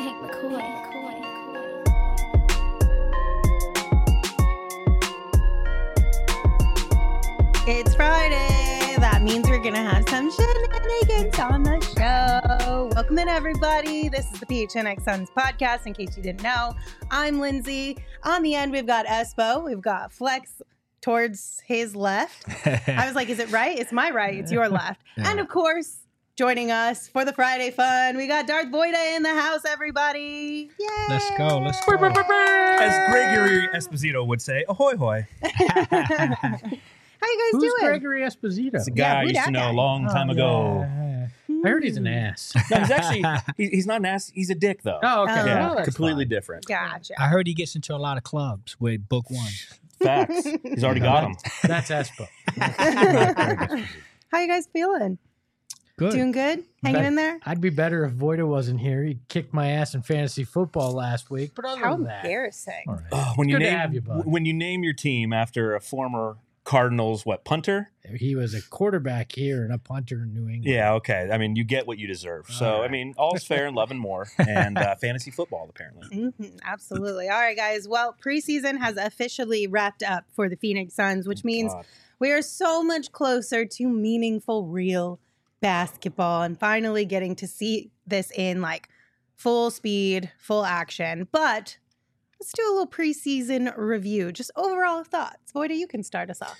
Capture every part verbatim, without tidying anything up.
Hank McCoy. It's Friday. That means we're going to have some shenanigans on the show. Welcome in, everybody. This is the P H N X Suns podcast, in case you didn't know. I'm Lindsay. On the end, we've got Espo. We've got Flex towards his left. I was like, is it right? It's my right. It's your left. Yeah. And, of course, joining us for the Friday fun, we got Darth Voida in the house, everybody. Yay! Let's go. Let's go. As Gregory Esposito would say, ahoy hoy. How you guys Who's doing? Gregory Esposito? It's a guy Yeah, I who used that to know guy? a long time Oh, ago. yeah, yeah. I heard he's an ass. No, he's actually, he, he's not an ass. He's a dick, though. Oh, okay. Oh. yeah, Well, that's completely fine. different. Gotcha. I heard he gets into a lot of clubs with Book One. Facts. He's already got him. That's Espo. How you guys feeling? Good. Doing good? Hanging Bet- in there? I'd be better if Voida wasn't here. He kicked my ass in fantasy football last week. But other How than that, embarrassing. all right. Oh, when you Good to name have you, bud. when you name your team after a former Cardinals, what, punter? He was a quarterback here and a punter in New England. Yeah, okay. I mean, you get what you deserve. So, All I right. mean, all's fair in love and more. And uh, fantasy football, apparently. Mm-hmm, absolutely. All right, guys. Well, preseason has officially wrapped up for the Phoenix Suns, which means God. we are so much closer to meaningful, real basketball and finally getting to see this in like full speed, full action. But let's do a little preseason review. Just overall thoughts. Voida, you can start us off.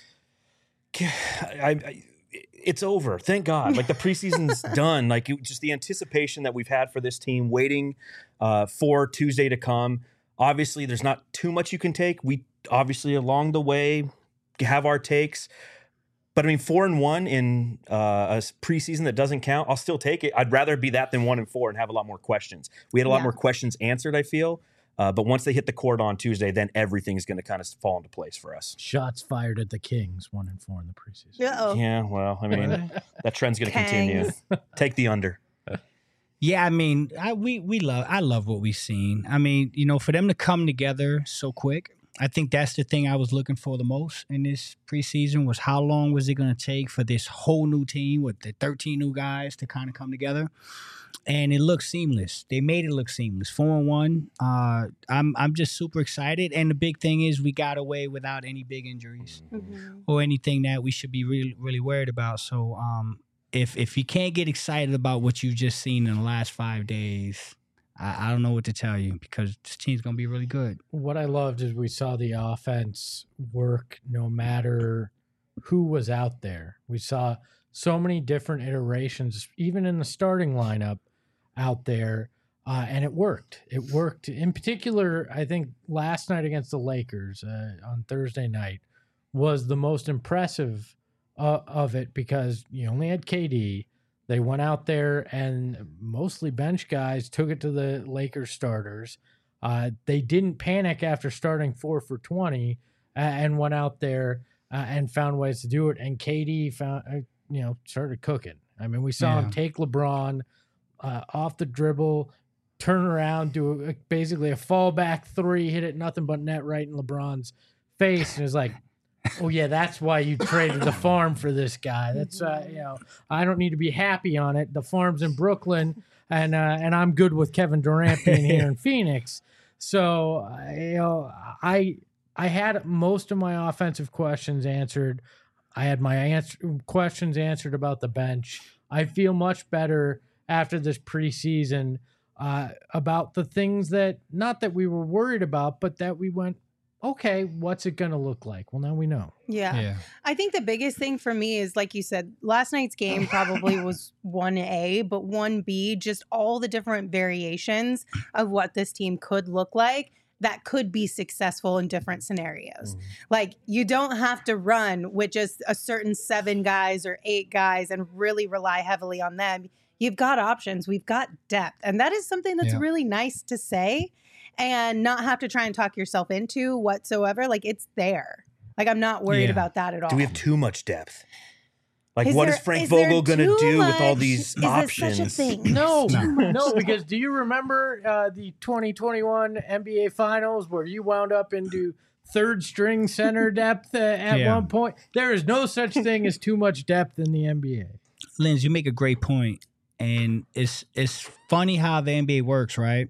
I, I, it's over. Thank God. Like the preseason's done. Like it, just the anticipation that we've had for this team, waiting uh, for Tuesday to come. Obviously, there's not too much you can take. We obviously along the way have our takes. But I mean, four and one in uh, a preseason that doesn't count, I'll still take it. I'd rather be that than one and four and have a lot more questions. We had a lot Yeah. more questions answered, I feel. Uh, but once they hit the court on Tuesday, then everything's going to kind of fall into place for us. Shots fired at the Kings, one and four in the preseason. Uh-oh. Yeah, well, I mean, that trend's going to continue. Kangs. Take the under. Yeah, I mean, I, we we love I love what we've seen. I mean, you know, for them to come together so quick, I think that's the thing I was looking for the most in this preseason was how long was it going to take for this whole new team with the thirteen new guys to kind of come together. And it looked seamless. They made it look seamless. Four and one. Uh, I'm I'm just super excited. And the big thing is we got away without any big injuries Mhm. or anything that we should be really really worried about. So um, if if you can't get excited about what you've just seen in the last five days, I, I don't know what to tell you because this team's gonna be really good. What I loved is we saw the offense work no matter who was out there. We saw so many different iterations, even in the starting lineup out there, uh, and it worked. It worked. In particular, I think last night against the Lakers uh, on Thursday night was the most impressive uh, of it because you only had K D. They went out there and mostly bench guys took it to the Lakers starters. Uh, they didn't panic after starting four for twenty uh, and went out there uh, and found ways to do it. And K D found, uh, you know, started cooking. I mean, we saw him Yeah. take LeBron uh, off the dribble, turn around, do a, basically a fallback three, hit it nothing but net right in LeBron's face, and it was like, oh yeah, that's why you traded the farm for this guy. That's uh, you know, I don't need to be happy on it. The farm's in Brooklyn, and uh, and I'm good with Kevin Durant being here in Phoenix. So uh, you know, I I had most of my offensive questions answered. I had my answer, questions answered about the bench. I feel much better after this preseason uh, about the things that not that we were worried about, but that we went, okay, what's it going to look like? Well, now we know. Yeah. I think the biggest thing for me is, like you said, last night's game probably was one A, but one B, just all the different variations of what this team could look like that could be successful in different scenarios. Mm. Like, you don't have to run with just a certain seven guys or eight guys and really rely heavily on them. You've got options. We've got depth. And that is something that's Yeah. really nice to say and not have to try and talk yourself into whatsoever. Like, it's there. Like, I'm not worried Yeah. about that at all. Do we have too much depth? Like, Is what there- is Frank is there Vogel going to too do with all much? these Is there options? such a thing? No, No. no, because do you remember uh, the twenty twenty-one N B A Finals where you wound up into third string center depth uh, at Yeah. one point? There is no such thing as too much depth in the N B A. Linz, you make a great point. And it's it's funny how the N B A works, right?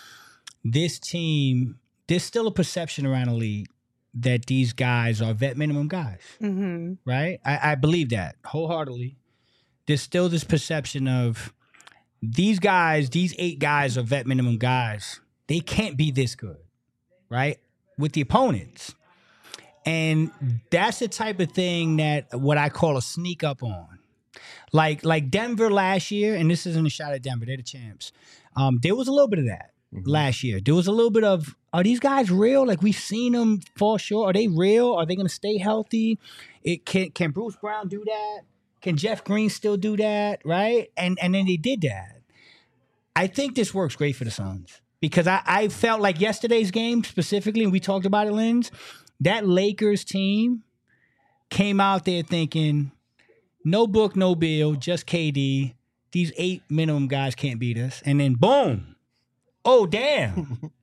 This team, there's still a perception around the league that these guys are vet minimum guys, Mm-hmm. right? I, I believe that wholeheartedly. There's still this perception of these guys, these eight guys are vet minimum guys. They can't be this good, right? With the opponents. And that's the type of thing that what I call a sneak up on. Like like Denver last year, and this isn't a shot at Denver, they're the champs. Um, there was a little bit of that mm-hmm. last year. There was a little bit of, are these guys real? Like we've seen them fall short. Are they real? Are they going to stay healthy? It can can Bruce Brown do that? Can Jeff Green still do that? Right? And and then they did that. I think this works great for the Suns because I, I felt like yesterday's game specifically, and we talked about it, Linz, that Lakers team came out there thinking, no Book, no Bill, just K D. These eight minimum guys can't beat us. And then boom. Oh, damn.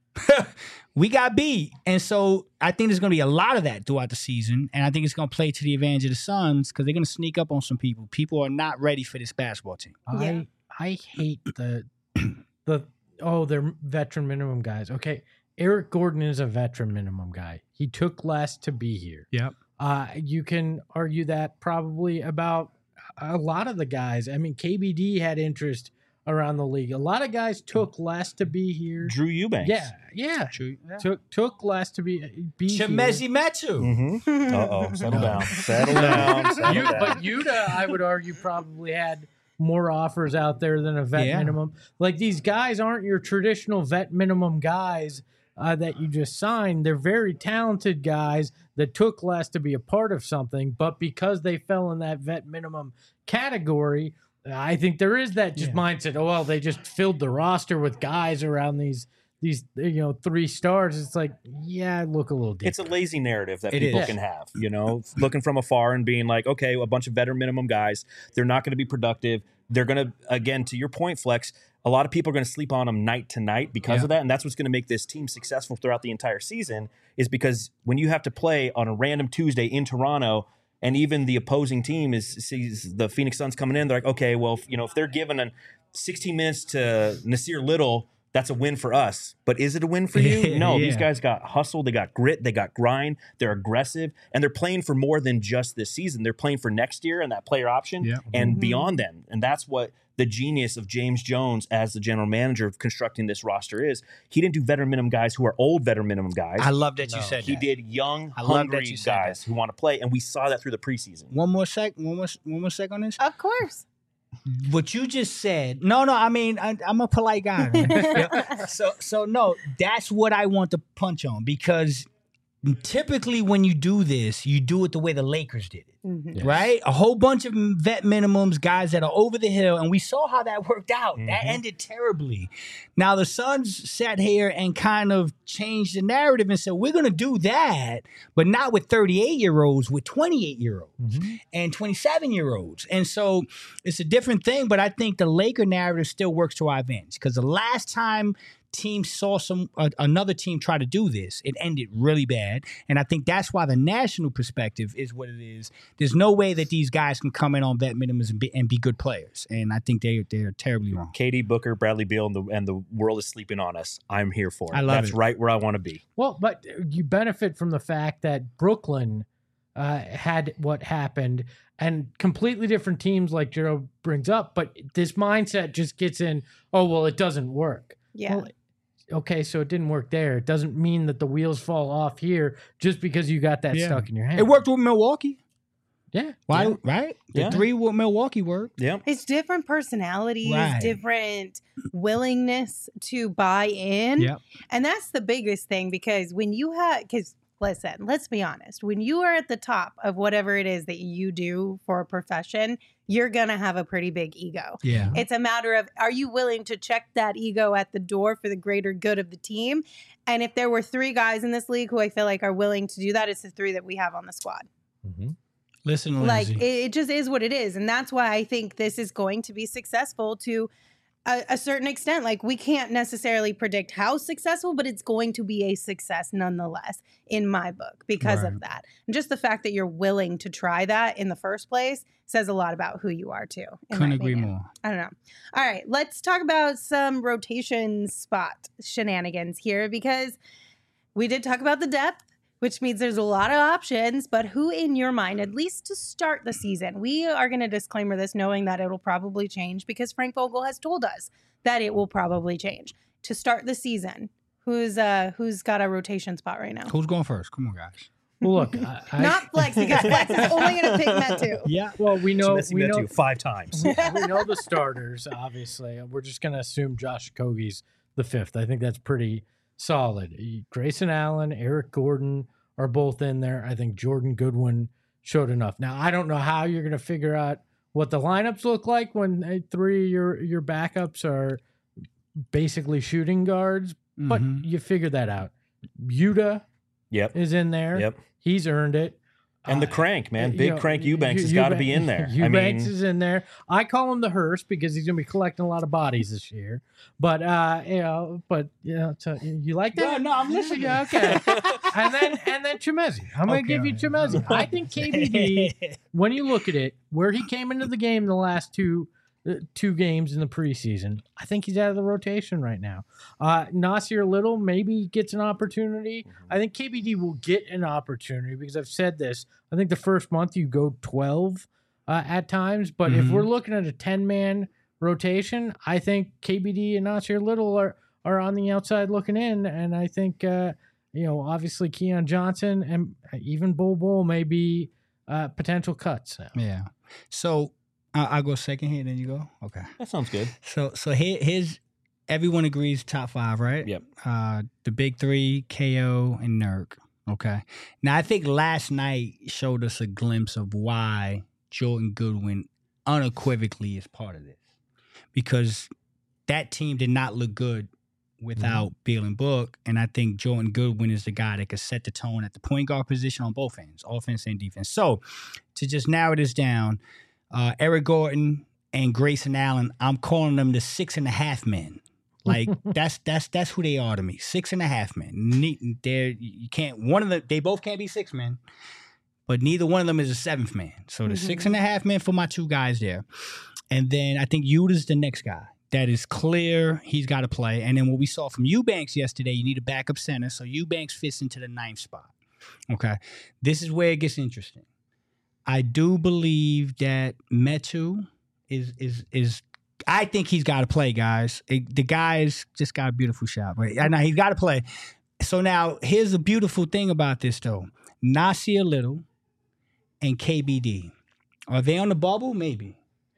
We got beat. And so I think there's going to be a lot of that throughout the season. And I think it's going to play to the advantage of the Suns because they're going to sneak up on some people. People are not ready for this basketball team. I I hate the the oh, they're veteran minimum guys. Okay. Eric Gordon is a veteran minimum guy. He took less to be here. Yep. Uh, you can argue that probably about a lot of the guys. I mean, K B D had interest around the league. A lot of guys took less to be here. Drew Eubanks. Yeah, yeah. True. Yeah. Took took less to be be here. Chimezi Metu. Mm-hmm. Uh-oh. Settle No. down. Settle down. Settle You, down. but Yuta, I would argue, probably had more offers out there than a vet Yeah. minimum. Like these guys aren't your traditional vet minimum guys uh, that you just signed. They're very talented guys that took less to be a part of something, but because they fell in that vet minimum category, I think there is that just Yeah. mindset. Oh well, they just filled the roster with guys around these these you know three stars. It's like, yeah, look a little deeper. It's a lazy narrative that It people is. can have, you know, looking from afar and being like, okay, a bunch of veteran minimum guys, they're not going to be productive. They're going to, again, to your point, Flex, a lot of people are going to sleep on them night to night because Yeah. of that. And that's what's going to make this team successful throughout the entire season is because when you have to play on a random Tuesday in Toronto and even the opposing team is sees the Phoenix Suns coming in, they're like, okay, well, if, you know, if they're given an sixteen minutes to Nasir Little, that's a win for us. But is it a win for you? No, Yeah. these guys got hustle, they got grit, they got grind, they're aggressive, and they're playing for more than just this season. They're playing for next year and that player option Yeah. and Mhm. beyond then. And that's what the genius of James Jones as the general manager of constructing this roster is. He didn't do veteran minimum guys who are old veteran minimum guys. I love that No. you said he that. did young, I love that hungry you said guys who want to play, and we saw that through the preseason. One more sec. One more. One more sec on this. Of course. What you just said. No, no. I mean, I, I'm a polite guy. man. Yeah. So, so no. That's what I want to punch on because typically when you do this, you do it the way the Lakers did it. Mhm. Yes. Right? A whole bunch of vet minimums, guys that are over the hill, and we saw how that worked out. That Mhm. ended terribly. Now the Suns sat here and kind of changed the narrative and said, we're going to do that, but not with thirty-eight-year-olds, with twenty-eight-year-olds and twenty-seven-year-olds. And so it's a different thing, but I think the Laker narrative still works to our advantage because the last time team saw some uh, another team try to do this, it ended really bad. And I think that's why the national perspective is what it is. There's no way that these guys can come in on vet minimums and be, and be good players. And I think they, they're terribly wrong. K D, Booker, Bradley Beal, and the, and the world is sleeping on us. I'm here for it. I love That's it. right where I want to be. Well, but you benefit from the fact that Brooklyn uh, had what happened and completely different teams like Jero brings up, but this mindset just gets in, oh, well, it doesn't work. Yeah. Well, okay, so it didn't work there. It doesn't mean that the wheels fall off here just because you got that Yeah. stuck in your hand. It worked with Milwaukee. Yeah. Why? Yeah. Right? The Yeah. three with Milwaukee worked. Yeah. It's different personalities, Right. different willingness to buy in. Yep. And that's the biggest thing because when you have, because listen, let's be honest, when you are at the top of whatever it is that you do for a profession, you're going to have a pretty big ego. Yeah. It's a matter of, are you willing to check that ego at the door for the greater good of the team? And if there were three guys in this league who I feel like are willing to do that, it's the three that we have on the squad. Mm-hmm. Listen, Like Lindsay. it, it just is what it is. And that's why I think this is going to be successful to a, a certain extent. Like, we can't necessarily predict how successful, but it's going to be a success nonetheless in my book because Right. of that. And just the fact that you're willing to try that in the first place says a lot about who you are too. in Couldn't my agree opinion. more. I don't know. All right, let's talk about some rotation spot shenanigans here because we did talk about the depth, which means there's a lot of options, but who in your mind, at least to start the season, we are going to disclaimer this knowing that it'll probably change because Frank Vogel has told us that it will probably change. To start the season, who's uh who's got a rotation spot right now? Who's going first? Come on, guys. Well, look, I, I, Not Flex because Flex is only going to pick Metu. Yeah. well, we know Messi we met know you five times. we know the starters. Obviously, we're just going to assume Josh Okogie's the fifth. I think that's pretty solid. Grayson Allen, Eric Gordon are both in there. I think Jordan Goodwin showed enough. Now, I don't know how you're going to figure out what the lineups look like when uh, three of your your backups are basically shooting guards, but Mhm. you figure that out. Yuta Yep. is in there. Yep. He's earned it. And the Uh, crank, man. you Big know, crank Eubanks has Eu- got to be in there. I Eubanks mean, is in there. I call him the hearse because he's going to be collecting a lot of bodies this year. But uh, you know, but you know, so you like that? No, no, I'm listening. Yeah, okay. and then and then Chemezi. I'm going to Okay, give you all right. Chemezi. I think K B D, when you look at it, where he came into the game the last two uh, two games in the preseason, I think he's out of the rotation right now. Uh, Nasir Little maybe gets an opportunity. I think K B D will get an opportunity because I've said this. I think the first month you go twelve uh, at times, but if Mhm. we're looking at a ten-man rotation, I think K B D and Nasir Little are are on the outside looking in, and I think uh, you know obviously Keon Johnson and even Bol Bol may be uh, potential cuts now. Yeah. So uh, I'll go second here, then you go. Okay. that sounds good. So so here, here's everyone agrees top five, right? Yep. Uh, the big three, K O and Nurk. Okay. Now I think last night showed us a glimpse of why Jordan Goodwin unequivocally is part of this, because that team did not look good without Beal and Book, and I think Jordan Goodwin is the guy that could set the tone at the point guard position on both ends, offense and defense. So to just narrow this down, uh, Eric Gordon and Grayson Allen, I'm calling them the six and a half men. Like that's that's that's who they are to me. Six and a half men. Ne- They're you can't one of the they both can't be six men, but neither one of them is a seventh man. So the Mhm. six and a half men for my two guys there, and then I think Yuta's the next guy. That is clear. He's got to play. And then what we saw from Eubanks yesterday, you need a backup center. So Eubanks fits into the ninth spot. Okay, this is where it gets interesting. I do believe that Metu is is is. I think he's got to play, guys. It- the guy's just got a beautiful shot, but I know he's got to play. So now here's the beautiful thing about this, though. Nasir Little and K B D, are they on the bubble? Maybe.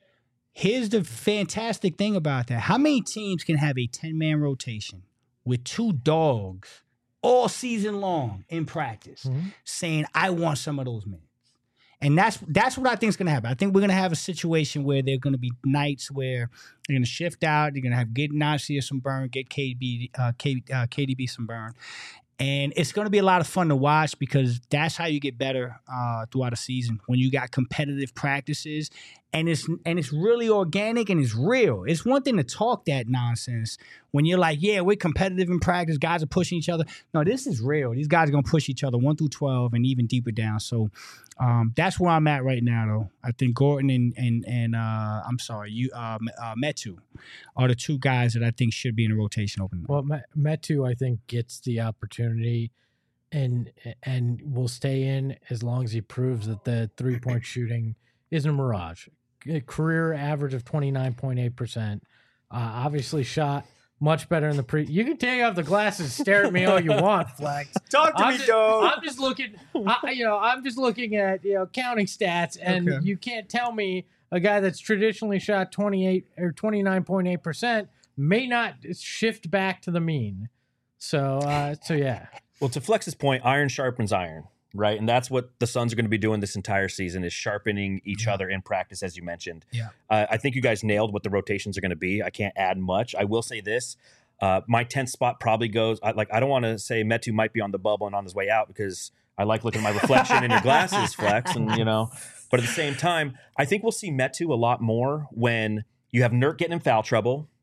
Here's the fantastic thing about that. How many teams can have a ten-man rotation with two dogs all season long in practice Mhm. saying, I want some of those minutes? And that's that's what I think is going to happen. I think we're going to have a situation where there are going to be nights where they're going to shift out. They're going to have get Nasir some burn, get K B, uh, K, uh, K D B some burn. And it's going to be a lot of fun to watch because that's how you get better uh, throughout a season, when you got competitive practices and it's and it's really organic and it's real. It's one thing to talk that nonsense when you're like, yeah, we're competitive in practice. Guys are pushing each other. No, this is real. These guys are going to push each other one through twelve and even deeper down. So um, that's where I'm at right now, though. I think Gordon and and and uh, I'm sorry, you uh, uh, Metu are the two guys that I think should be in the rotation opening. Well, Me- Metu, I think, gets the opportunity and and will stay in as long as he proves that the three point shooting isn't a mirage. A career average of twenty-nine point eight percent. Uh, obviously, shot much better in the pre. You can take off the glasses and stare at me all you want, Flex. Talk to I'm me, just, dog. I'm just looking. I, you know, I'm just looking at you know counting stats, and Okay. you can't tell me a guy that's traditionally shot twenty-eight or twenty-nine point eight percent may not shift back to the mean. So, uh, so yeah. Well, to Flex's point, iron sharpens iron, right? And that's what the Suns are going to be doing this entire season, is sharpening each Yeah. other in practice, as you mentioned. Yeah. Uh, I think you guys nailed what the rotations are going to be. I can't add much. I will say this. Uh, my tenth spot probably goes, I, like, I don't want to say Metu might be on the bubble and on his way out because I like looking at my reflection in your glasses, Flex, and, you know. But at the same time, I think we'll see Metu a lot more when you have Nurk getting in foul trouble,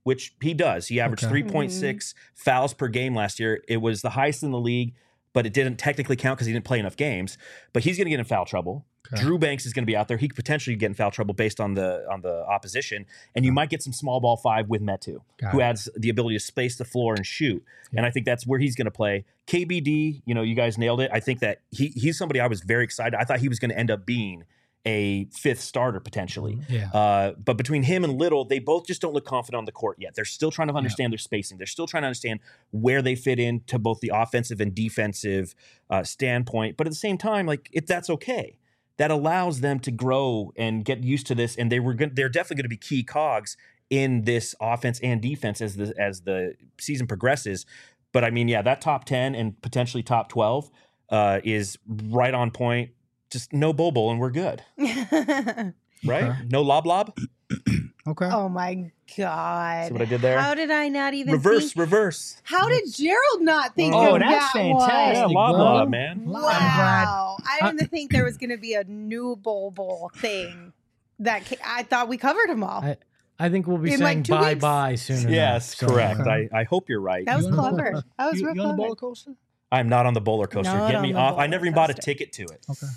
which he does. He averaged Okay. three point six fouls per game last year. It was the highest in the league, but it didn't technically count because he didn't play enough games. But he's going to get in foul trouble. Okay. Drew Banks is going to be out there. He could potentially get in foul trouble based on the on the opposition, and you might get some small ball five with Metu, Got who it. adds the ability to space the floor and shoot. Yeah. And I think that's where he's going to play. K B D, you know, you guys nailed it. I think that he he's somebody I was very excited. I thought he was going to end up being a fifth starter potentially. Yeah. Uh, but between him and Little, they both just don't look confident on the court yet. They're still trying to understand their spacing. They're still trying to understand where they fit into both the offensive and defensive uh, standpoint. But at the same time, like it, that's okay. That allows them to grow and get used to this, and they were good, they're definitely going to be key cogs in this offense and defense as the as the season progresses. But I mean, yeah, that top ten and potentially top twelve uh, is right on point. Just no Bobo, and we're good, right? Okay. No lob lob. Okay. Oh my God. See what I did there? How did I not even Reverse, think? reverse. How did Gerald not think Oh, of that's that fantastic, Yeah, one? lob bro. lob, man. I'm glad. Wow. I didn't think there was going to be a new Bowl Bowl thing. That ca- I thought we covered them all. I, I think we'll be In, saying like, two bye weeks. bye soon enough. Yes, So, correct. uh, I, I hope you're right. that was You on the clever. roller- That was you, real you on the clever. roller coaster? I'm not on the bowler coaster. Not Get on me the off. I roller never even bought a coaster. ticket to it. Okay.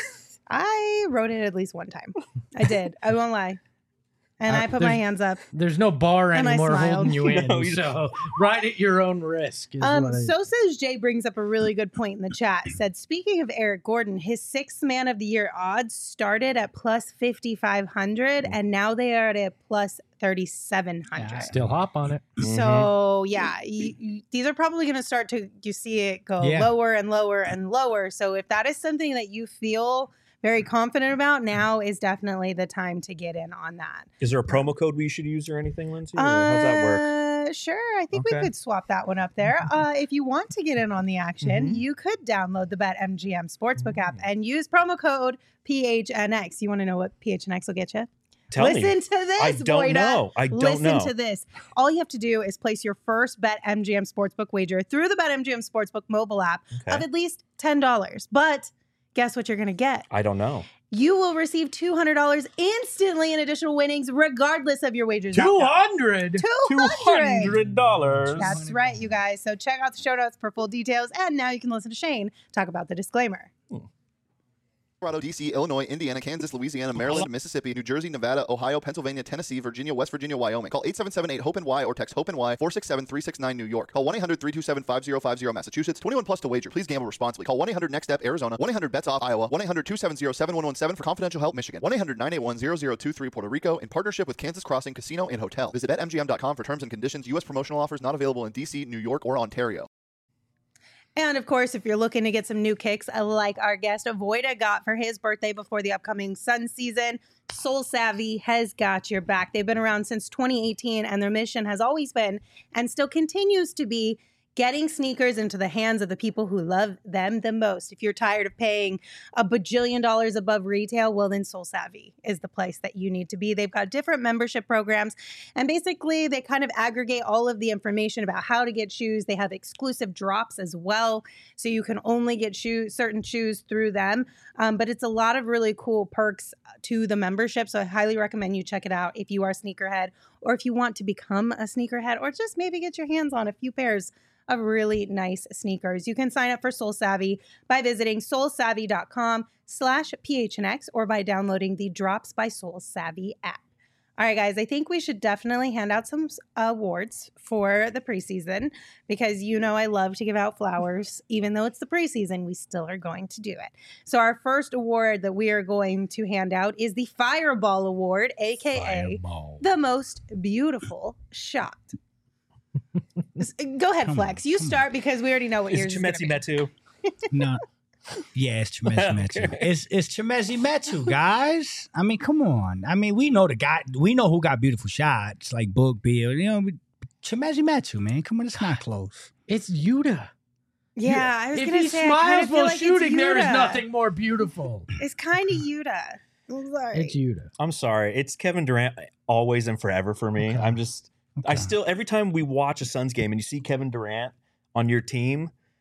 I rode it at least one time. I did. I won't lie. And Uh, I put my there's- hands up. There's no bar And I anymore smiled. holding you in, No, you- so ride at your own risk. Is Um, what I, so says Jay brings up a really good point in the chat. Said, speaking of Eric Gordon, his sixth man of the year odds started at plus fifty-five hundred and now they are at a plus thirty-seven hundred. Yeah. still hop on it. So yeah, you, you, these are probably going to start to, you see it go Yeah. lower and lower and lower. So if that is something that you feel very confident about, now is definitely the time to get in on that. Is there a promo code we should use or anything, Lindsay? Or how's that work? Uh, sure. I think we Okay. could swap that one up there. Uh, if you want to get in on the action, Mhm. you could download the BetMGM Sportsbook app and use promo code P H N X. You want to know what P H N X will get you? Tell Listen me. to this, I don't Voida. know. I don't Listen know. to this. All you have to do is place your first BetMGM Sportsbook wager through the BetMGM Sportsbook mobile app Okay. of at least ten dollars. But guess what you're going to get? I don't know. You will receive two hundred dollars instantly in additional winnings, regardless of your wagers. Two hundred. two hundred dollars. That's right, you guys. So check out the show notes for full details. And now you can listen to Shane talk about the disclaimer. Colorado, D C, Illinois, Indiana, Kansas, Louisiana, Maryland, Mississippi, New Jersey, Nevada, Ohio, Pennsylvania, Tennessee, Virginia, West Virginia, Wyoming. Call eight seven seven eight hope N Y or text hope N Y four six seven three six nine New York. Call one eight hundred three two seven five zero five zero Massachusetts. twenty-one plus to wager. Please gamble responsibly. Call one eight hundred next step Arizona. one eight hundred bets off Iowa. one eight hundred two seven zero seven one one seven for confidential help Michigan. one eight hundred nine eight one zero zero two three Puerto Rico in partnership with Kansas Crossing Casino and Hotel. Visit bet M G M dot com for terms and conditions. U S promotional offers not available in D C, New York, or Ontario. And of course, if you're looking to get some new kicks, uh, like our guest Avoida got for his birthday before the upcoming Sun season, Soul Savvy has got your back. They've been around since twenty eighteen, and their mission has always been and still continues to be getting sneakers into the hands of the people who love them the most. If you're tired of paying a bajillion dollars above retail, well, then Soul Savvy is the place that you need to be. They've got different membership programs, and basically they kind of aggregate all of the information about how to get shoes. They have exclusive drops as well, so you can only get shoes, certain shoes through them. Um, but it's a lot of really cool perks to the membership, so I highly recommend you check it out if you are a sneakerhead, or if you want to become a sneakerhead, or just maybe get your hands on a few pairs of really nice sneakers. You can sign up for Soul Savvy by visiting soulsavvy.com slash PHNX or by downloading the Drops by Soul Savvy app. All right, guys, I think we should definitely hand out some awards for the preseason because you know I love to give out flowers. Even though it's the preseason, we still are going to do it. So our first award that we are going to hand out is the Fireball Award, a k a Fireball. the most beautiful shot. Go ahead, Come Flex. on, You come start because we already know what Is yours is going Chimezi to be. Metu? No. Yeah, it's Chimezi Metu. Okay. It's it's Chimezi Metu, guys. I mean, come on. I mean, we know the guy. We know who got beautiful shots like Book Bill. You know, Chimezi Metu, man. Come on, it's not close. It's Yuta. Yeah, I was If going he to say, I smiles kinda feel while like shooting, it's there is Yuta. nothing more beautiful. It's kind of Yuta. I'm sorry. It's Yuta. I'm sorry. It's Kevin Durant always and forever for me. Okay. I'm just, I Okay. still, every time we watch a Suns game and you see Kevin Durant on your team,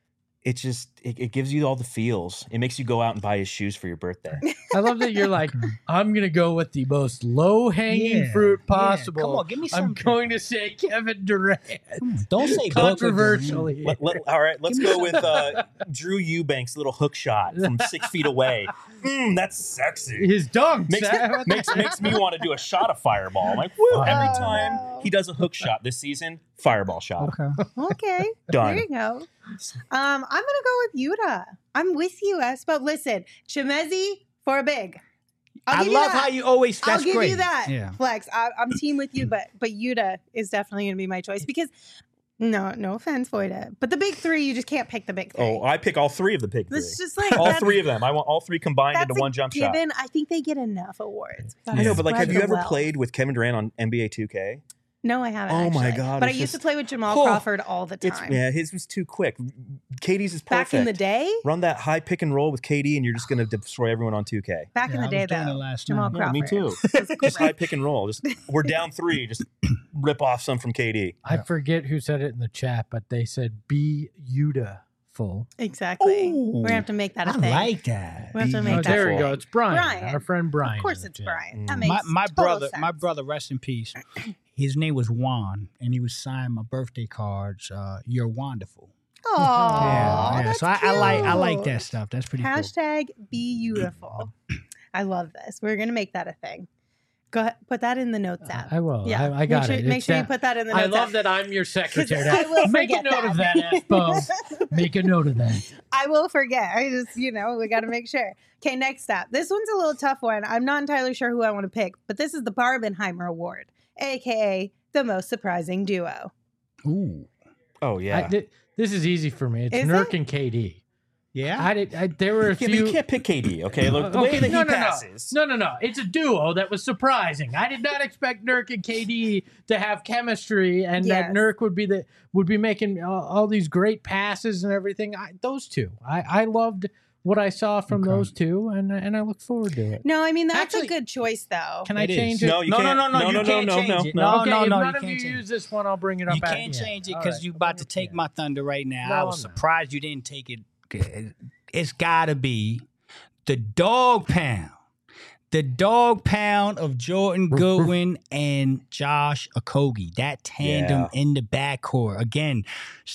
it just it, it gives you all the feels. It makes you go out and buy his shoes for your birthday. I love that you're like, I'm gonna go with the most low hanging Yeah, fruit yeah. possible. Come on, give me I'm something. going to say Kevin Durant. Don't say Controversially. Let- let- all right, let's go with uh, Drew Eubanks' little hook shot from six feet away. Mm, that's sexy. His dunks. Makes, uh, makes makes me want to do a shot of fireball. I'm like, woo! Every Oh, time no. he does a hook shot this season, fireball shot. Okay. Okay. Done. There you go. Um, I'm gonna go with Yuta. I'm with you, S. But listen, Chimezi for a big. I'll I give you love that. how you always. That's I'll give great. you that. Yeah. Flex. I, I'm team with you, but but Yuta is definitely gonna be my choice because no, no offense, Voida, but the big three, you just can't pick the big three. Oh, I pick all three of the big three. It's just like All that's- three of them. I want all three combined That's into a one jump shot. given. I think they get enough awards. We gotta I know, but like, spread have you the ever wealth. played with Kevin Durant on N B A two K? No, I haven't. Oh my actually. God, But I it's used to just- play with Jamal Oh, Crawford all the It's time. yeah, his was too quick. Katie's is perfect. Back in the day. Run that high pick and roll with K D, and you're just going to destroy everyone on two K. Back in Yeah, the I day, was doing though. it last Jamal night. Yeah, Crawford. me too. was Just high great. pick and roll. Just we're down three. Just rip off some from K D. I forget who said it in the chat, but they said be Yuta-ful. Exactly. Ooh. We're gonna have to make that a I thing. like that. We have to Be make Oh, that. there we a go. thing. It's Brian, Brian. our friend Brian. Of course, in the it's chat. Brian. Mm. That makes My my total brother, sense. my brother, rest in peace. His name was Juan, and he was signing my birthday cards. Uh, You're wonderful. Oh, yeah, yeah. that's So I, I like I like cute. that stuff. That's pretty cool. Hashtag be beautiful. I love this. We're gonna make that a thing. Go ahead, put that in the notes app. I will. Yeah, I, I got make sure, it. Make It's sure you that- put that in the I notes love app. that I'm your secretary. I will Make a forget note of that. that, F-Bo. Make a note of that. I will forget. I just, you know, we got to make sure. Okay, next up. This one's a little tough one. I'm not entirely sure who I want to pick, but this is the Barbenheimer Award, aka the most surprising duo. Ooh, Oh yeah. I, th- this is easy for me. It's Is Nurk it? and K D. yeah. I did. I, there were a Yeah, but few. you can't pick K D. Okay, look the Okay, way that no, he no, no. passes. No, no, no. It's a duo that was surprising. I did not expect Nurk and K D to have chemistry, and Yes. that Nurk would be the would be making all, all these great passes and everything. I, those two, I, I loved what I saw from Okay. those two, and and I look forward to it. No, I mean, that's Actually- a good choice, though. Can I It is. change it? No, you no, can't. no, no, no, No, you no, can't no, change no, it. no. No, okay, no, if no, none you of you can't change use it. this one, I'll bring it up. You at can't the end. change it All because right, you I'll about bring to it take down. my thunder right now. No, I was I'm not. surprised you didn't take it. It's gotta be the dog pound. The dog pound of Jordan Goodwin and Josh Okogie. That tandem Yeah. in the backcourt. Again,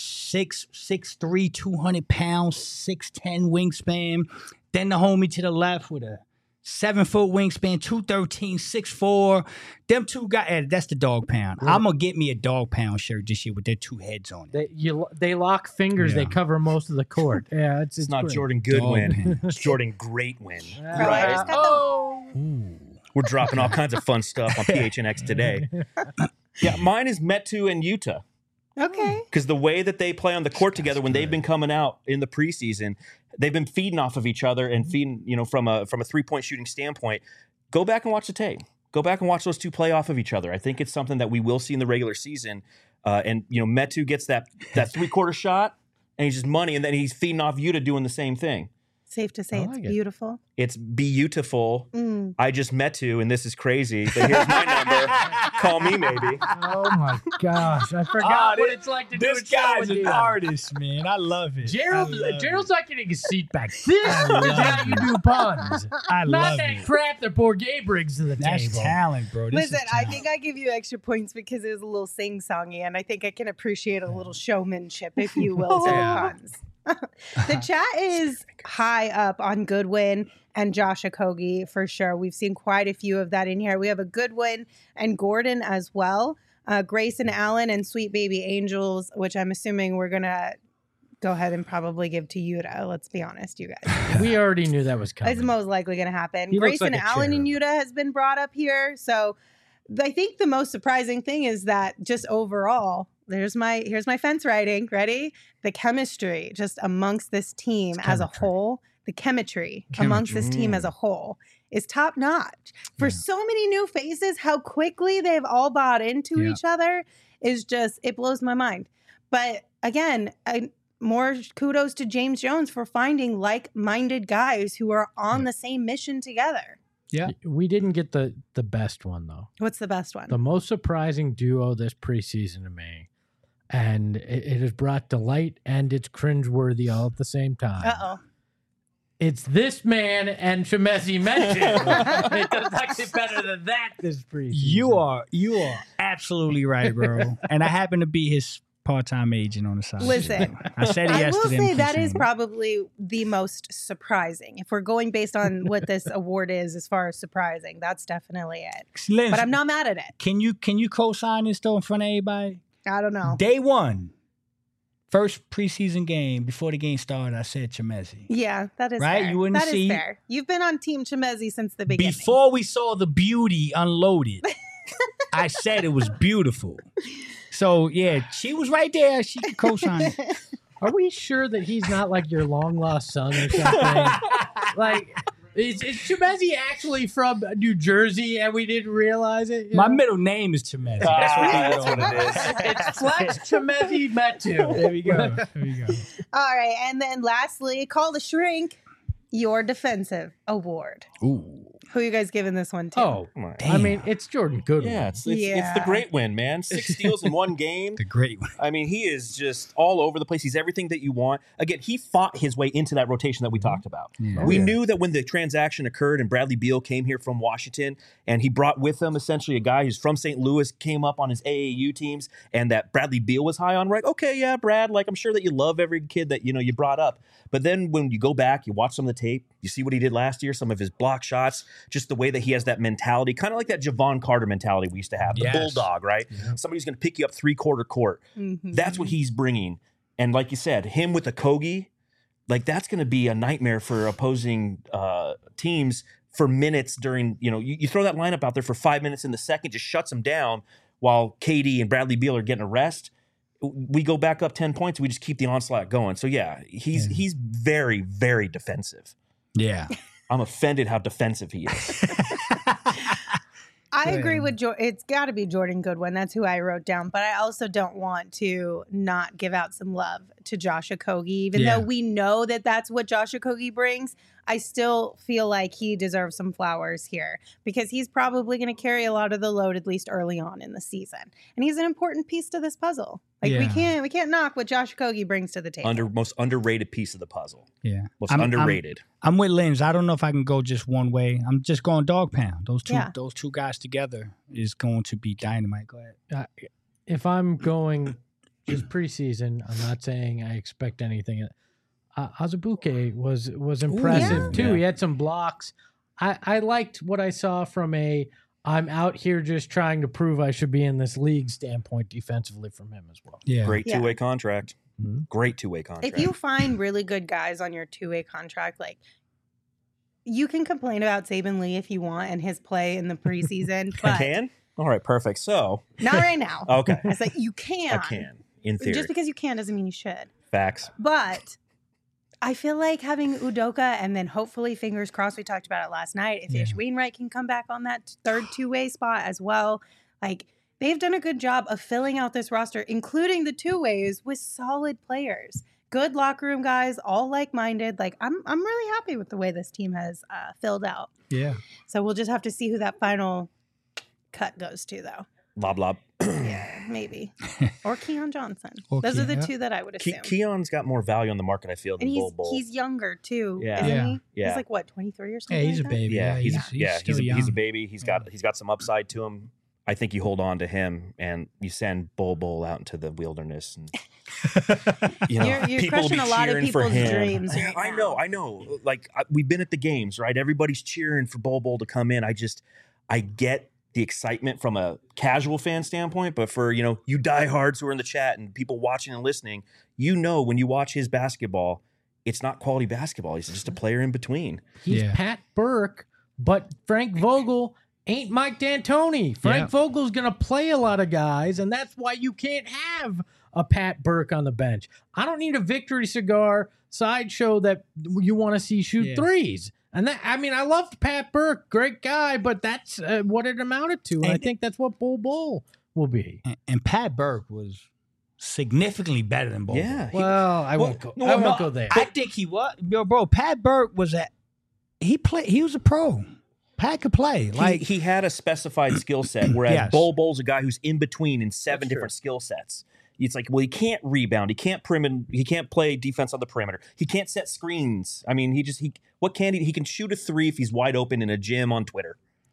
six, six, three, two hundred pounds, six ten wingspan. Then the homie to the left with a seven foot wingspan, two thirteen, six four. Them two guys, eh, that's the dog pound. I'm gonna get me a dog pound shirt this year with their two heads on it. They you they lock fingers. They Yeah. cover most of the court. Yeah, it's It's, it's not great. Jordan Dog Goodwin. pound. It's Jordan Greatwin. Uh, I just got the- oh, Ooh. We're dropping all kinds of fun stuff on P H N X today. Yeah, mine is Metu and Utah. Okay. Because the way that they play on the court together when they've been coming out in the preseason, they've been feeding off of each other and feeding, you know, from a from a three point shooting standpoint. Go back and watch the tape. Go back and watch those two play off of each other. I think it's something that we will see in the regular season. Uh, and you know, Metu gets that that three quarter shot, and he's just money, and then he's feeding off Yuta doing the same thing. Safe to say I it's like it. beautiful. It's beautiful. Mm. I just met you, and this is crazy. But here's my number. Call me, maybe. oh my gosh! I Ah, forgot what this- it's like to do This a show guy's with an you. artist, man. I love it. Gerald, I love Gerald's it. not getting his seat back. This I is love how you it. do puns. I Not love that it. crap that poor Gabe brings to the That's table. talent, bro. This is Listen, I talent. think I give you extra points because it was a little sing-songy, and I think I can appreciate a little showmanship, if you will, to the Yeah. puns. The chat is high up on Goodwin and Josh Okogie for sure. We've seen quite a few of that in here. We have a Goodwin and Gordon as well. Uh, Grayson Allen and Sweet Baby Angels, which I'm assuming we're going to go ahead and probably give to Yuta. Let's be honest, you guys. We already knew that was coming. It's most likely going to happen. He looks Grayson like a Allen and cherub. Yuta has been brought up here. So I think the most surprising thing is that just overall, there's my here's my fence writing. Ready? The chemistry just amongst this team It's as a chemistry. whole, the chemistry, amongst this team as a whole is top notch. For Yeah. so many new faces, how quickly they've all bought into Yeah. each other is just it blows my mind. But again, I, more kudos to James Jones for finding like-minded guys who are on the same mission together. Yeah. We didn't get the the best one though. What's the best one? The most surprising duo this preseason to me. and it, it has brought delight and it's cringeworthy all at the same time. Uh-oh. It's this man and Chimezie Metu. It does not get better than that this preseason. You are you are absolutely right, bro. And I happen to be his part-time agent on the side. Listen, I said it I will yesterday. say in that is preseason. probably the most surprising. If we're going based on what this award is as far as surprising, that's definitely it. Listen, But I'm not mad at it. Can you can you co-sign this though in front of everybody? I don't know. Day one, first preseason game before the game started, I said Chimezie. Yeah, that is Right? fair. You wouldn't That is see- fair. You've been on Team Chimezie since the beginning. Before we saw the beauty unloaded, I said it was beautiful. So yeah, she was right there. She could co-sign it. Are we sure that he's not like your long lost son or something? Like, is, is Chimezie actually from New Jersey and we didn't realize it? You My know? middle name is Chimezie. Ah, That's what, that's what it is. It's Flex Chimezie Metu. There we go. There we go. All right. And then lastly, call the shrink, your defensive award. Ooh. Who are you guys giving this one to? Oh, Come on. I mean, it's Jordan Goodwin. Yeah, it's, it's, it's Yeah. the great win, man. Six steals in one game. The great one. I mean, he is just all over the place. He's everything that you want. Again, he fought his way into that rotation that we talked about. Yeah. we yeah. knew that when the transaction occurred and Bradley Beal came here from Washington and he brought with him essentially a guy who's from Saint Louis, came up on his A A U teams, and that Bradley Beal was high on, right? Okay, yeah, Brad, like I'm sure that you love every kid that, you know, you brought up. But then when you go back, you watch some of the tape, you see what he did last year, some of his block shots, just the way that he has that mentality, kind of like that Javon Carter mentality we used to have, the Yes. bulldog, right? Yeah. Somebody's going to pick you up three-quarter court. Mhm. That's what he's bringing. And like you said, him with a Kogi, like that's going to be a nightmare for opposing uh, teams for minutes during, you know, you, you throw that lineup out there for five minutes in the second, just shuts them down while K D and Bradley Beal are getting a rest. We go back up ten points. We just keep the onslaught going. So yeah, he's Yeah. he's very, very defensive. Yeah. I'm offended how defensive he is. I Good. agree with Jordan. It's got to be Jordan Goodwin. That's who I wrote down. But I also don't want to not give out some love to Josh Okogie. Even Yeah. though we know that that's what Josh Okogie brings, I still feel like he deserves some flowers here because he's probably going to carry a lot of the load, at least early on in the season. And he's an important piece to this puzzle. Like we Yeah. can't we can't knock what Josh Okogie brings to the table. Under most underrated piece of the puzzle. Yeah. Most I'm- I'm- underrated. I'm with Linz. I don't know if I can go just one way. I'm just going dog pound. Those two Yeah. those two guys together is going to be dynamite. Go ahead. If I'm going just preseason, I'm not saying I expect anything. Uh, Azubuike was was impressive yeah. too. Yeah. He had some blocks. I, I liked what I saw from a I'm out here just trying to prove I should be in this league standpoint defensively from him as well. Yeah. Great Yeah. two-way contract. Mhm. Great two-way contract. If you find really good guys on your two-way contract, like you can complain about Saban Lee if you want and his play in the preseason, I but can? All right, perfect. So, not right now. okay. I said you can. I can, in theory. Just because you can doesn't mean you should. Facts. But I feel like having Udoka and then hopefully, fingers crossed, we talked about it last night, if Yeah. Ish Wainwright can come back on that third two-way spot as well. Like they've done a good job of filling out this roster, including the two-ways with solid players. Good locker room guys, all like-minded. Like I'm I'm really happy with the way this team has uh, filled out. Yeah. So we'll just have to see who that final cut goes to, though. Lob, lob. Yeah, maybe. Or Keon Johnson. Or Those are Keon, the yeah. two that I would Ke- assume. Keon's got more value on the market, I feel, than and he's Bull Bull. he's younger too, Yeah. isn't Yeah. he? Yeah. He's like what, twenty-three or Yeah, something? he's a like that? baby. yeah, he's, he's, yeah, he's still a, young. he's a baby. He's Yeah. got he's got some upside to him. I think you hold on to him and you send Bull Bull out into the wilderness, and you know, You're- you're people will be crushing a lot of cheering for people's him. dreams right I now. know, I know. Like I, we've been at the games, right? Everybody's cheering for Bull Bull to come in. I just, I get the excitement from a casual fan standpoint, but for you know, you diehards who are in the chat and people watching and listening, you know, when you watch his basketball, it's not quality basketball. He's just a player in between. He's Yeah. Pat Burke, but Frank Vogel ain't Mike D'Antoni. Frank Yeah. Vogel's going to play a lot of guys, and that's why you can't have a Pat Burke on the bench. I don't need a victory cigar sideshow that you want to see shoot Yeah. threes. And that, I mean, I loved Pat Burke, great guy, but that's uh, what it amounted to. And, I And- think that's what Bull Bull will be. And, and Pat Burke was significantly better than Bull. Yeah. He- Well, I well, won't go, no, I won't no, go there. I think he was. Yo, bro, Pat Burke was at. He played. He was a pro. Pat could play. Like he, he had a specified skill set, whereas Yes. Bull Bull's a guy who's in between in seven That's true. different skill sets. It's like, well, he can't rebound. He can't perimeter. He can't play defense on the perimeter. He can't set screens. I mean, he just he. What can he? He can shoot a three if he's wide open in a gym on Twitter.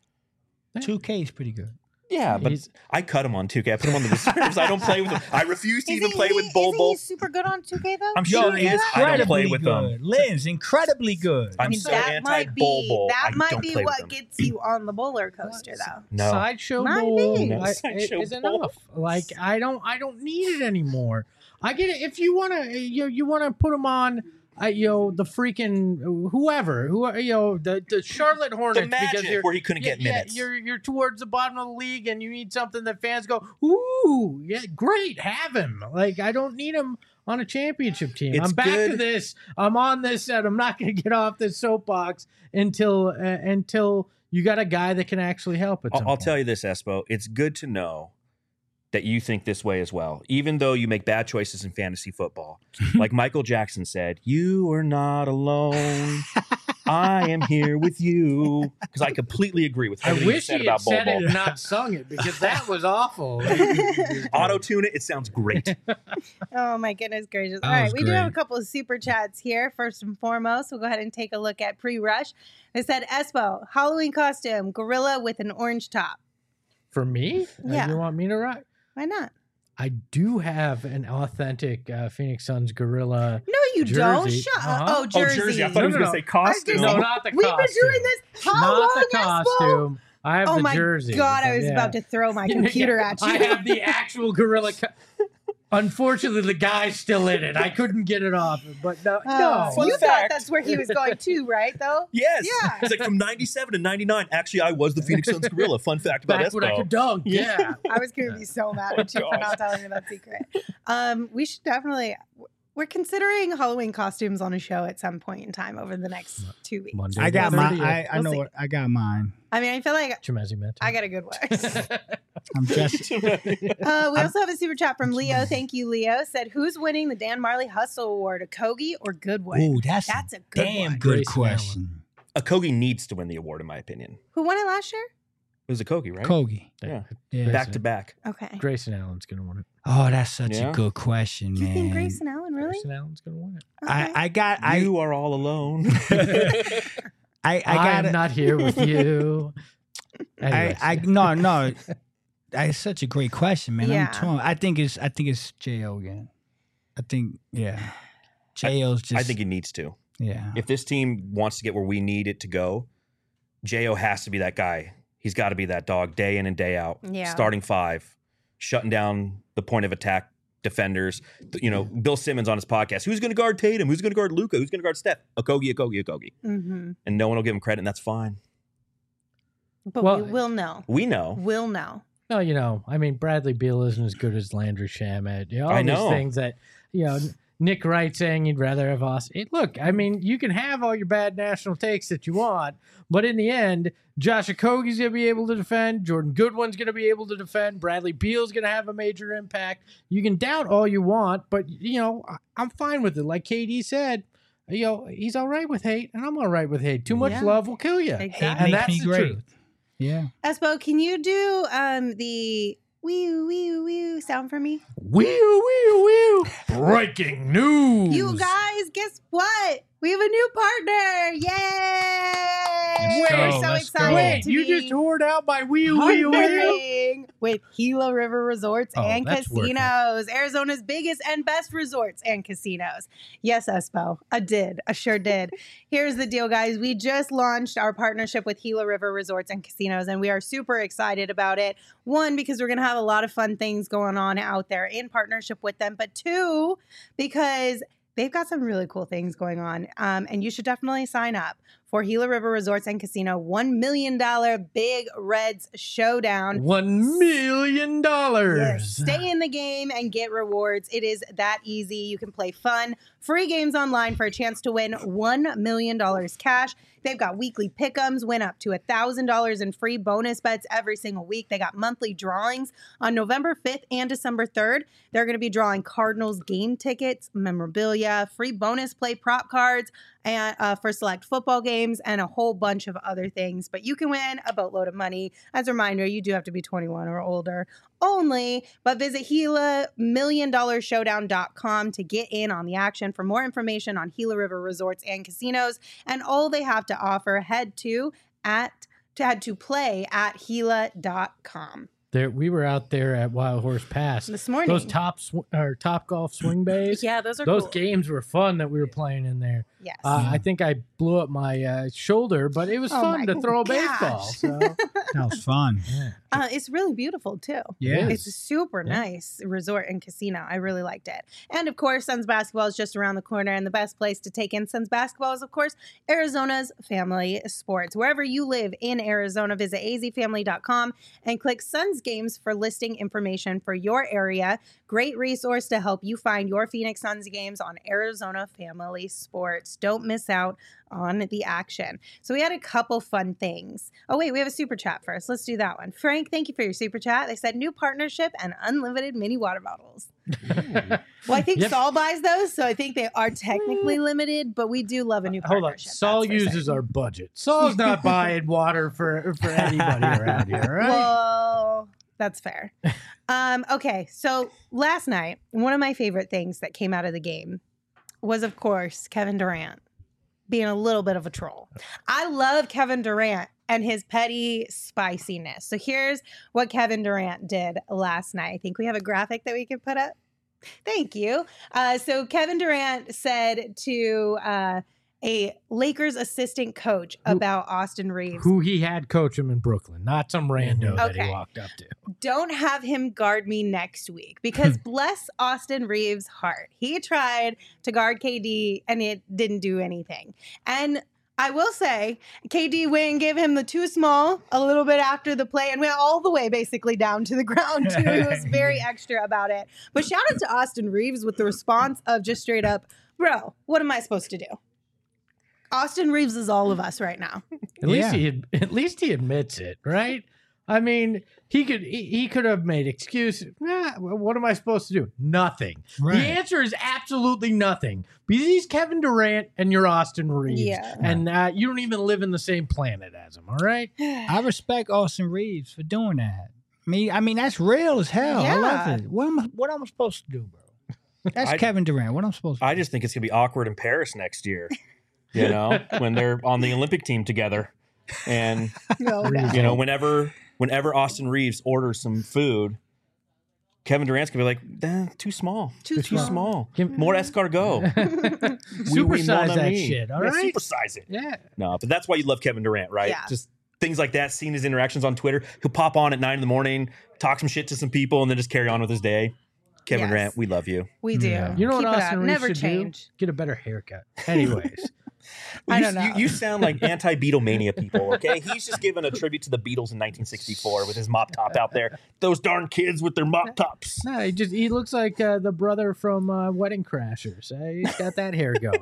two K is pretty good. Yeah, but He's- I cut him on two K. I put him on the reserves. I don't play with him. I refuse to Is even he- play with is Bol he Bol. super good on two K though? I'm sure he is. I don't play with good. them. Lynn's incredibly good. I'm I mean, so that anti might Bol be Bol. that I might don't be play with what them. gets you on the roller coaster though. No. Sideshow Might bowl be. No, I- sideshow is bowl. enough. Like I don't, I don't need it anymore. I get it. If you want to, you you want to put them on, uh, you know, the freaking whoever, who you know, the the Charlotte Hornets The Magic, because you're where he couldn't yeah, get minutes. Yeah, you're you're towards the bottom of the league and you need something that fans go, ooh, yeah, great, have him. Like I don't need him on a championship team. It's I'm back to good. this. I'm on this, and I'm not going to get off this soapbox until uh, until you got a guy that can actually help it. I'll, I'll tell you this, Espo. It's good to know that you think this way as well, even though you make bad choices in fantasy football. Like Michael Jackson said, "You are not alone. I am here with you." Because I completely agree with I everything you wish said he had about Bol said it Bol. and not sung it because that was awful. Auto tune it. It sounds great. Oh my goodness gracious. That All right, was we do have a great. couple of super chats here. First and foremost, we'll go ahead and take a look at pre-rush. They said Espo, Halloween costume, gorilla with an orange top. For me? Uh, Yeah. You want me to rock? Why not? I do have an authentic uh, Phoenix Suns gorilla. No, you don't. Jersey. Shut Uh-huh. up. Oh, Oh, Jersey. Jersey. I thought he was No, going no, to say I was costume. gonna No, say- not the We've costume. been doing this how not long, the Espo? costume. I have Oh the my jersey. god, I but was yeah. about to throw my computer at you. I have the actual gorilla. Co- Unfortunately, the guy's still in it. I couldn't get it off. But no, Oh, no. Fun you thought fact. that's where he was going to, right? Though. Yes. Yeah. It's like from ninety-seven to ninety-nine. Actually, I was the Phoenix Suns gorilla. Fun fact about Back when I Espo. could dunk. Yeah. I was going to be so mad at you for God. not telling me that secret. Um, we should definitely. We're considering Halloween costumes on a show at some point in time over the next two weeks. Monday. I got the my. thirtieth. I, I We'll know see. what I got mine. I mean, I feel like Chimezi Meta. I got a good one. I'm just. Uh, we also have a super chat from Leo. Thank you, Leo. Said, "Who's winning the Dan Marley Hustle Award? A Kogi or Goodwin?" Ooh, that's, That's a a good damn one. good Grayson question. Akogi needs to win the award, in my opinion. Who won it last year? It was Akogi, right? Kogi. Yeah. Yeah. Back to back. Okay. Grayson Allen's going to win it. Oh, that's such Yeah. a good question, Do you man. think Grayson Allen really? Grayson Allen's going to win it. I, Okay. I got. I. You are all alone. I. I I, got. am not here with you. I. Anyways. I. No. No. That's such a great question, man. Yeah. I'm torn. I think it's. I think it's J O again. I think. Yeah. J O's just. I think he needs to. Yeah. If this team wants to get where we need it to go, J O has to be that guy. He's got to be that dog day in and day out. Yeah. Starting five, shutting down the point of attack defenders. You know, Bill Simmons on his podcast. Who's going to guard Tatum? Who's going to guard Luka? Who's going to guard Steph? Akogi, Akogi, Akogi. Mm-hmm. And no one will give him credit, and that's fine. But Well- we will know. We know. We'll know. No, you know, I mean, Bradley Beal isn't as good as Landry Shamet. You know, all I these know. things that, you know, Nick Wright saying he'd rather have us. It, look, I mean, you can have all your bad national takes that you want, but in the end, Josh Okogie's going to be able to defend. Jordan Goodwin's going to be able to defend. Bradley Beal's going to have a major impact. You can doubt all you want, but, you know, I, I'm fine with it. Like K D said, you know, he's all right with hate, and I'm all right with hate. Too much Yeah. love will kill you. Exactly. And Makes that's me the great. truth. Yeah. Espo, can you do um the wee wee wee sound for me? Wee wee wee. Breaking news. You guys, guess what? We have a new partner! Yay! Let's We're go, so let's excited go. Wait, to you be just toured out my wee wee wee. partnering with Gila River Resorts Oh, and that's working. Casinos, Arizona's biggest and best resorts and casinos. Yes, Espo, I did. I sure did. Here's the deal, guys. We just launched our partnership with Gila River Resorts and Casinos, and we are super excited about it. One, because we're going to have a lot of fun things going on out there in partnership with them, but two, because they've got some really cool things going on, um, and you should definitely sign up for Gila River Resorts and Casino one million dollars Big Reds Showdown. One million Yes. dollars. Stay in the game and get rewards. It is that easy. You can play fun, free games online for a chance to win one million dollars cash. They've got weekly pick'ems, win up to one thousand dollars in free bonus bets every single week. They got monthly drawings on November fifth and December third. They're going to be drawing Cardinals game tickets, memorabilia, free bonus play prop cards, and uh, for select football games. games, and a whole bunch of other things. But you can win a boatload of money. As a reminder, you do have to be twenty-one or older only. But visit Gila million dollar showdown dot com to get in on the action. For more information on Gila River Resorts and Casinos and all they have to offer, head to at to head to play at Gila dot com. There, we were out there at Wild Horse Pass This morning. Those top sw- or top golf swing bays. Yeah, those are those cool. games were fun that we were playing in there. Yes. Uh, I think I blew up my uh, shoulder, but it was Oh fun my to throw a gosh. baseball. So That was fun. yeah. Uh, it's really beautiful too. Yeah. It's a super Yeah. nice resort and casino. I really liked it. And of course, Suns basketball is just around the corner. And the best place to take in Suns basketball is, of course, Arizona's Family Sports. Wherever you live in Arizona, visit a z family dot com and click Suns Games for listing information for your area. Great resource to help you find your Phoenix Suns games on Arizona Family Sports. Don't miss out on the action. So we had a couple fun things. Oh, wait, we have a super chat first. Let's do that one. Frank, thank you for your super chat. They said new partnership and unlimited mini water bottles. Well, I think Yep. Saul buys those, so I think they are technically limited, but we do love a new Hold on, partnership. Saul that's for uses certain. our budget. Saul's not buying water for for anybody around here, right? Well, that's fair. Um, okay, so last night, one of my favorite things that came out of the game was, of course, Kevin Durant being a little bit of a troll. I love Kevin Durant and his petty spiciness. So here's what Kevin Durant did last night. I think we have a graphic that we can put up. Thank you. Uh, so Kevin Durant said to uh, a Lakers assistant coach Who- about Austin Reeves, Who he had coach him in Brooklyn, not some rando that Okay. he walked up to. don't have him guard me next week because bless Austin Reeves' heart. He tried to guard K D and it didn't do anything. And I will say, K D went and gave him the too small a little bit after the play and went all the way basically down to the ground too. He was very extra about it. But shout out to Austin Reeves with the response of just straight up, bro, what am I supposed to do? Austin Reeves is all of us right now. At least Yeah. he at least he admits it, right? I mean, he could he, he could have made excuses. Nah, what am I supposed to do? Nothing. Right. The answer is absolutely nothing because he's Kevin Durant and you're Austin Reeves, Yeah. and uh, you don't even live in the same planet as him. All right. I respect Austin Reeves for doing that. I mean, I mean that's real as hell. I love Yeah. it. What am I, what am I supposed to do, bro? That's I- Kevin Durant. What am I supposed to do? I just think it's gonna be awkward in Paris next year. You know, when they're on the Olympic team together, and No, no. you know, whenever whenever Austin Reeves orders some food, Kevin Durant's gonna be like, eh, "Too small, Too too small. small, Give- more escargot, Supersize that shit. All yeah, right. supersize it." Yeah. No, but that's why you love Kevin Durant, right? Yeah. Just things like that. Seeing his interactions on Twitter, he'll pop on at nine in the morning, talk some shit to some people, and then just carry on with his day. Kevin Yes. Durant, we love you. We do. Yeah. You know Keep what it Austin up. Reeves Never should change. do? Get a better haircut. Anyways. I you, don't know. You, you sound like anti-Beatlemania people, okay? He's just giving a tribute to the Beatles in nineteen sixty-four with his mop top out there. Those darn kids with their mop tops. No, he just he looks like uh, the brother from uh, Wedding Crashers. Uh, he's got that hair going.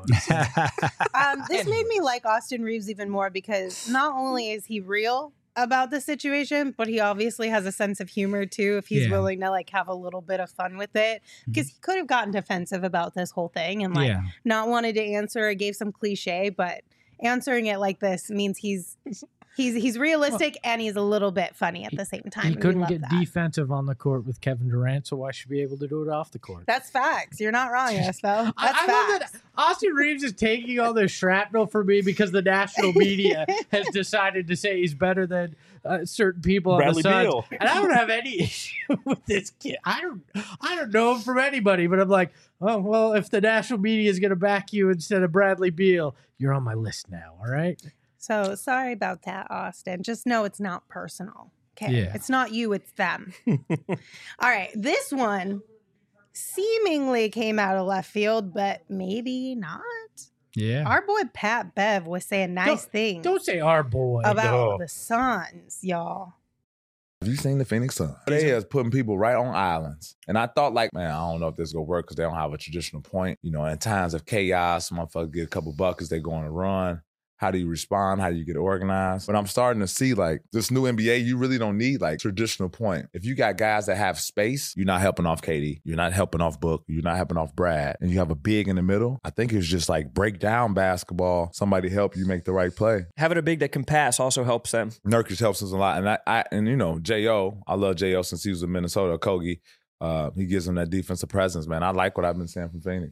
Um, this made me like Austin Reeves even more because not only is he real about the situation, but he obviously has a sense of humor too. If he's Yeah. willing to like have a little bit of fun with it, because he could have gotten defensive about this whole thing and like yeah. not wanted to answer or gave some cliche, but answering it like this means he's he's he's realistic and he's a little bit funny at the same time. He and we couldn't love get that. defensive on the court with Kevin Durant, so why should he be able to do it off the court? That's facts. You're not wrong, Espo. That's I, I love facts. that Austin Reeves is taking all this shrapnel for me because the national media has decided to say he's better than uh, certain people Bradley on the Suns. Beal. And I don't have any issue with this kid. I don't, I don't know him from anybody, but I'm like, oh well, if the national media is going to back you instead of Bradley Beal, you're on my list now. All right. So sorry about that, Austin. Just know it's not personal. Okay. Yeah. It's not you, it's them. All right. This one seemingly came out of left field, but maybe not. Yeah. Our boy Pat Bev was saying nice Don't- things Don't say our boy. about No. the Suns, y'all. Have you seen the Phoenix Suns? They is putting people right on islands. And I thought like, man, I don't know if this is going to work because they don't have a traditional point. You know, in times of chaos, motherfuckers get a couple buckets, they go on a run. How do you respond? How do you get organized? But I'm starting to see like this new N B A, you really don't need like traditional point. If you got guys that have space, you're not helping off K D. You're not helping off Book. You're not helping off Brad. And you have a big in the middle. I think it's just like break down basketball. Somebody help you make the right play. Having a big that can pass also helps them. Nurkic helps us a lot. And I, I and you know, J O, I love J O since he was in Minnesota, Kogi. Uh, he gives them that defensive presence, man. I like what I've been saying from Phoenix.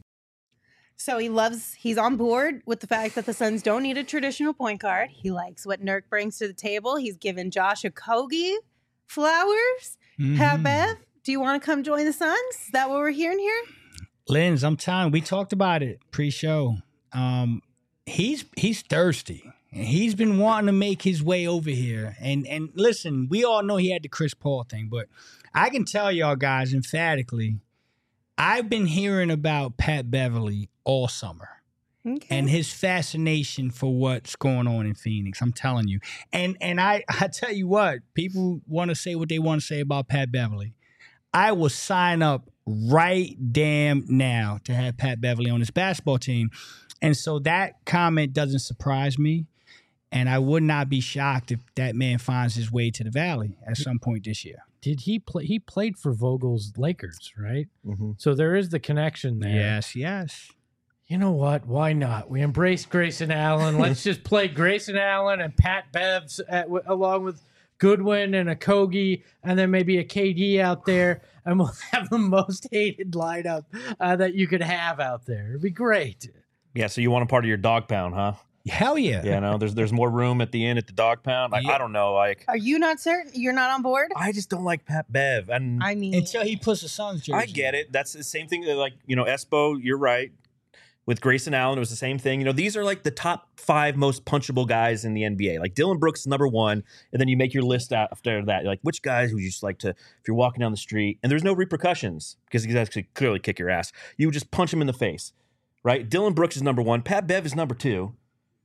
So he loves, he's on board with the fact that the Suns don't need a traditional point guard. He likes what Nurk brings to the table. He's given Josh Okogie flowers. Mhm. Pat Bev, do you want to come join the Suns? Is that what we're hearing here? Linz, I'm telling you, we talked about it pre-show. Um, he's he's thirsty. And he's been wanting to make his way over here. And and listen, we all know he had the Chris Paul thing, but I can tell y'all guys emphatically, I've been hearing about Pat Beverly all summer. Okay. And his fascination for what's going on in Phoenix. I'm telling you. And and I, I tell you what, people want to say what they want to say about Pat Beverly. I will sign up right damn now to have Pat Beverly on this basketball team. And so that comment doesn't surprise me. And I would not be shocked if that man finds his way to the Valley at some point this year. Did he play? He played for Vogel's Lakers, right? Mm-hmm. So there is the connection there. Yes, yes. You know what? Why not? We embrace Grayson Allen. Let's just play Grayson Allen and Pat Bevs at, w- along with Goodwin and Okogie, and then maybe a K D out there, and we'll have the most hated lineup uh, that you could have out there. It'd be great. Yeah, so you want a part of your dog pound, huh? Hell yeah. Yeah, no, there's there's more room at the end at the dog pound. Like, Yeah. I don't know, like Are you not certain? You're not on board? I just don't like Pat Bev, and I mean, Until he puts the Suns jersey. I get it. That's the same thing that, like, you know, Espo, you're right. With Grayson Allen, it was the same thing. You know, these are like the top five most punchable guys in the N B A. Like Dylan Brooks is number one, and then you make your list after that. Like, which guys would you just like to, if you're walking down the street, and there's no repercussions because he's actually clearly kick your ass. You would just punch him in the face, right? Dylan Brooks is number one. Pat Bev is number two.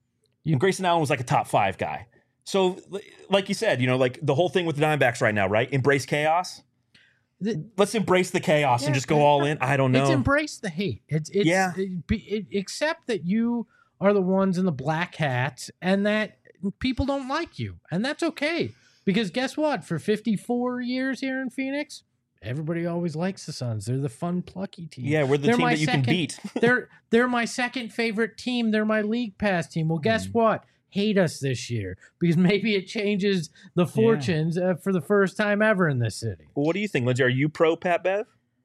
And Grayson Allen was like a top five guy. So, like you said, you know, like the whole thing with the Diamondbacks right now, right? Embrace chaos. The- Let's embrace the chaos and Yeah, just go all in. I don't know. It's embrace the hate. It's it's Yeah. it, be, it, accept that you are the ones in the black hats and that people don't like you, and that's okay. Because guess what? For fifty-four years here in Phoenix, everybody always likes the Suns. They're the fun, plucky team. yeah, we're the They're team my that you second- can beat. they're they're my second favorite team. They're my league pass team. Well, guess what? Hate us this year because maybe it changes the fortunes uh, for the first time ever in this city. Well, what do you think, Lindsay? Are you pro Pat Bev?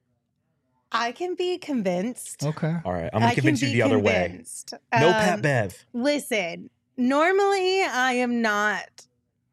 I can be convinced. Okay. All right, I'm gonna I convince can you be the other way. convinced. No Um, Pat Bev. Listen, normally I am not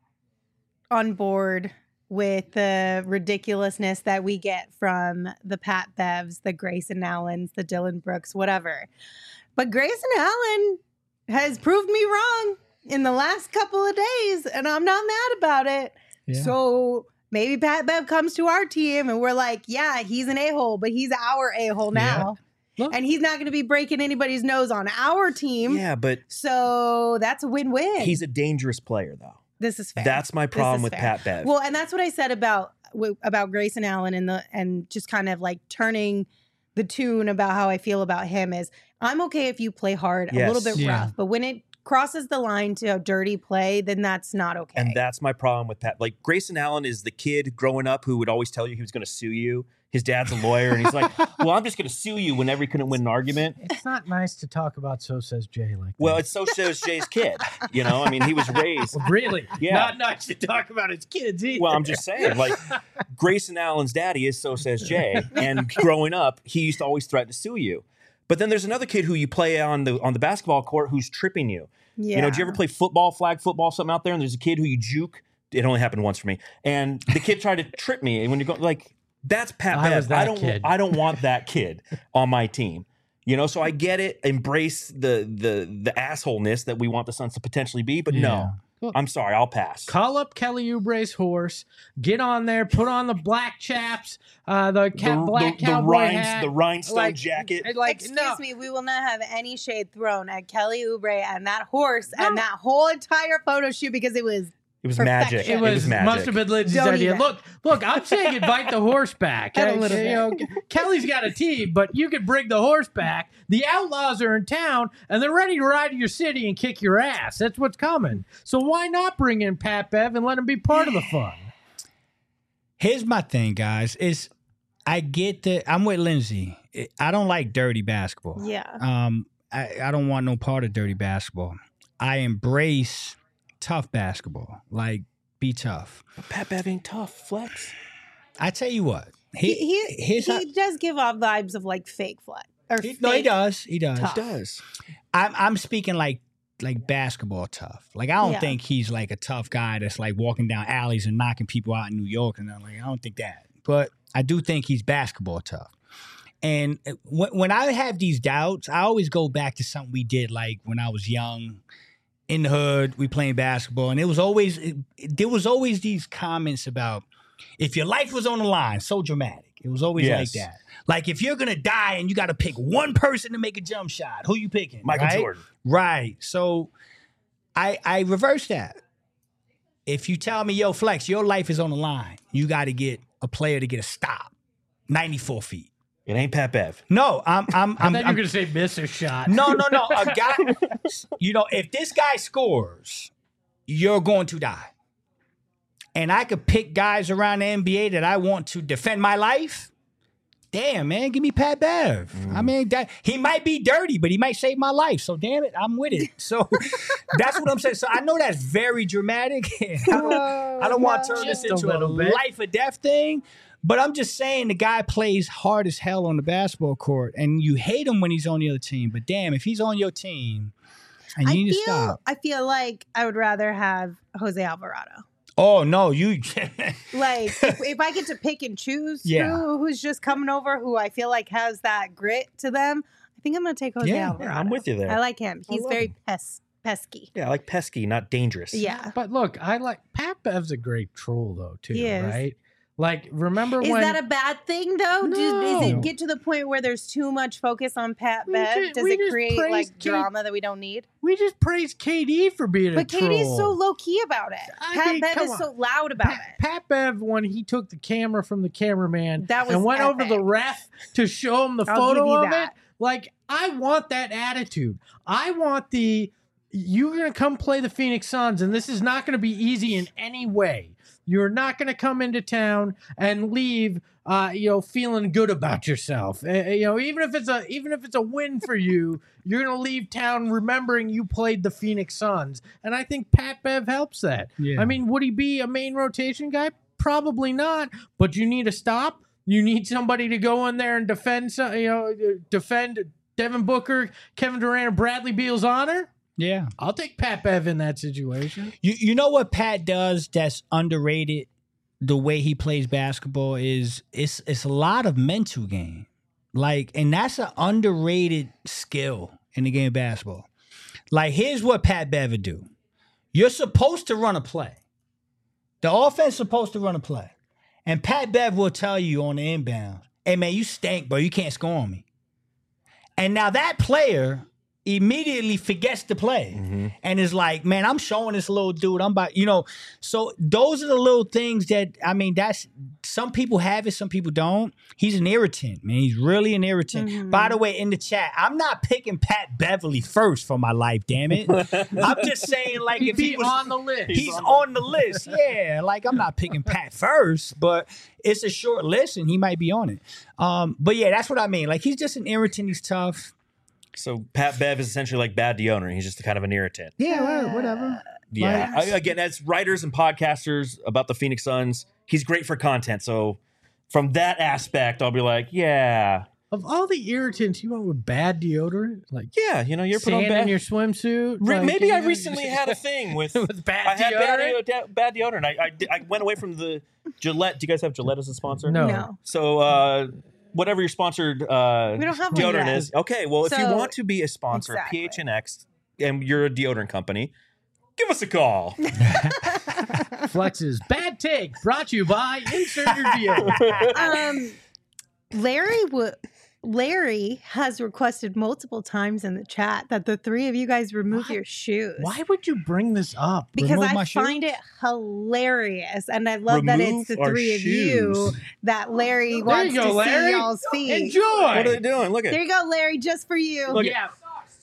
on board with the ridiculousness that we get from the Pat Bevs, the Grayson Allens, the Dylan Brooks, whatever. But Grayson Allen has proved me wrong in the last couple of days, and I'm not mad about it. Yeah. So maybe Pat Bev comes to our team and we're like, yeah, he's an a-hole, but he's our a-hole now. Look. And he's not going to be breaking anybody's nose on our team. Yeah, but So that's a win-win. he's a dangerous player, though. This is fair. That's my This problem is with fair. Pat Bev. Well, and that's what I said about w- about Grayson Allen and the and just kind of like turning the tune about how I feel about him is I'm okay if you play hard, a little Yes. bit Yeah. rough, but when it crosses the line to a dirty play, then that's not okay. And that's my problem with Pat. Like, Grayson Allen is the kid growing up who would always tell you he was going to sue you. His dad's a lawyer, and he's like, well, I'm just going to sue you whenever he couldn't win an argument. It's not nice to talk about So Says Jay like Well, that. it's so says Jay's kid. You know, I mean, he was raised. Well, really? Yeah. Not nice to talk about his kids either. Well, I'm just saying, like, Grayson Allen's daddy is So Says Jay, and growing up, he used to always threaten to sue you. But then there's another kid who you play on the on the basketball court who's tripping you. yeah. You know, do you ever play football, flag football, something out there, and there's a kid who you juke? It only happened once for me, and the kid tried to trip me. And when you go like, that's Pat I Bev. was that I don't. kid. I don't want that kid on my team. You know, so I get it. Embrace the the the assholeness that we want the Suns to potentially be, but Yeah. no, Look. I'm sorry, I'll pass. Call up Kelly Oubre's horse, get on there, put on the black chaps, uh, the, ca- the, black the, the, cowboy rhinds, hat. the rhinestone like, jacket. Like, Excuse no. me, we will not have any shade thrown at Kelly Oubre and that horse No. and that whole entire photo shoot because it was It was Perfection. magic. It It was, was magic. must have been Lindsay's Don't idea. even. Look, look, I'm saying invite the horse back. A Uh, little you bit. know, Kelly's got a team, but you could bring the horse back. The Outlaws are in town, and they're ready to ride to your city and kick your ass. That's what's coming. So why not bring in Pat Bev and let him be part of the fun? Here's my thing, guys. Is I get that I'm with Lindsay. I don't like dirty basketball. Yeah. Um, I, I don't want no part of dirty basketball. I embrace tough basketball. Like, be tough. Pat Bev ain't tough. Flex. I tell you what. He He, he, here's he how- does give off vibes of like fake flat or he- fake. no, he does. He does. tough. Does. I'm I'm speaking like like basketball tough. Like I don't Yeah. think he's like a tough guy that's like walking down alleys and knocking people out in New York and I'm like I don't think that. But I do think he's basketball tough. And when when I have these doubts, I always go back to something we did like when I was young in the hood, we playing basketball and it was always it, there was always these comments about if your life was on the line, so dramatic. It was always Yes. like that. Like if you're gonna die and you got to pick one person to make a jump shot, who you picking? Michael right? Jordan. Right. So I I reverse that. If you tell me, yo, Flex, your life is on the line, you got to get a player to get a stop, ninety-four feet. It ain't Pat Bev. No, I'm I'm I I'm, thought you were I'm going to say miss a shot. no no no. A guy, you know, if this guy scores, you're going to die. And I could pick guys around the N B A that I want to defend my life. Damn, man, give me Pat Bev. I mean, that, he might be dirty, but he might save my life. So, damn it, I'm with it. So, that's what I'm saying. So, I know that's very dramatic. I don't, I don't want to turn Just this a into a, little bit. life or death thing. But I'm just saying the guy plays hard as hell on the basketball court, and you hate him when he's on the other team. But damn, if he's on your team, and you I need feel to stop. I feel like I would rather have Jose Alvarado. Oh no, you. Like if, if I get to pick and choose Yeah. who, who's just coming over, who I feel like has that grit to them, I think I'm gonna take Jose Yeah. Alvarado. Yeah, I'm with you there. I like him. I He's love very him. pes- pesky. Yeah, I like pesky, not dangerous. Yeah. But look, I like Pat Bev's a great troll though too, He is. right? Like remember Is when that a bad thing though? Does, does No. it get to the point where there's too much focus on Pat We Bev? ju- Does we it just create praised like Kate- drama that we don't need? we just praised K D for being But a troll. Katie's so low key about it. I Pat mean, Bev come is on. so loud about Pat, it. Pat Bev, when he took the camera from the cameraman That was and went over the epic. ref to show him the I'll photo give you of that. it, like I want that attitude. I want the you're gonna come play the Phoenix Suns, and this is not gonna be easy in any way. You're not gonna come into town and leave, uh, you know, feeling good about yourself. Uh, you know, even if it's a even if it's a win for you, you're gonna leave town remembering you played the Phoenix Suns. And I think Pat Bev helps that. Yeah. I mean, would he be a main rotation guy? Probably not. But you need a stop. You need somebody to go in there and defend. some- You know, defend Devin Booker, Kevin Durant, and Bradley Beal's honor. Yeah. I'll take Pat Bev in that situation. You you know what Pat does that's underrated? The way he plays basketball is it's it's a lot of mental game. Like, and that's an underrated skill in the game of basketball. Like, here's what Pat Bev would do. You're supposed to run a play. The offense is supposed to run a play. And Pat Bev will tell you on the inbound, hey man, you stink, bro. You can't score on me. And now that player immediately forgets to play and is like, man, I'm showing this little dude. I'm about, you know, so those are the little things that, I mean, that's, some people have it, some people don't. He's an irritant, man. He's really an irritant. By the way, in the chat, I'm not picking Pat Beverly first for my life, damn it. I'm just saying, like, He'd if he be was on the list. He's on the list. Yeah. Like, I'm not picking Pat first, but it's a short list and he might be on it. Um, but yeah, that's what I mean. Like, he's just an irritant. He's tough. So Pat Bev is essentially like Bad deodorant. He's just kind of an irritant. Yeah, well, whatever. Yeah. Like- I, again, as writers and podcasters about the Phoenix Suns, he's great for content. So from that aspect, I'll be like, yeah, Of all the irritants, you went with bad deodorant? Like yeah. You know, you're put on sand in bad. your swimsuit? Re- Like, maybe you I know, recently had a thing with. with bad I had bad, deodorant? deo- bad deodorant. I, I, I went away from the Gillette. Do you guys have Gillette as a sponsor? No. No. So uh, whatever your sponsored uh, We don't have one deodorant yet. is, okay. Well, if you So- want to be a sponsor Exactly. of P H N X and you're a deodorant company, give us a call. Flex's bad take brought to you by Insert Your Deal. um, Larry would Larry has requested multiple times in the chat that the three of you guys remove Why- your shoes. Why would you bring this up? Because Remove I my find shoes? it hilarious, and I love that it's Remove the our three of you shoes. that Larry There wants you go, to Larry. see y'all's feet. Enjoy. What are they doing? Look at There you go, Larry, just for you. Look at- yeah.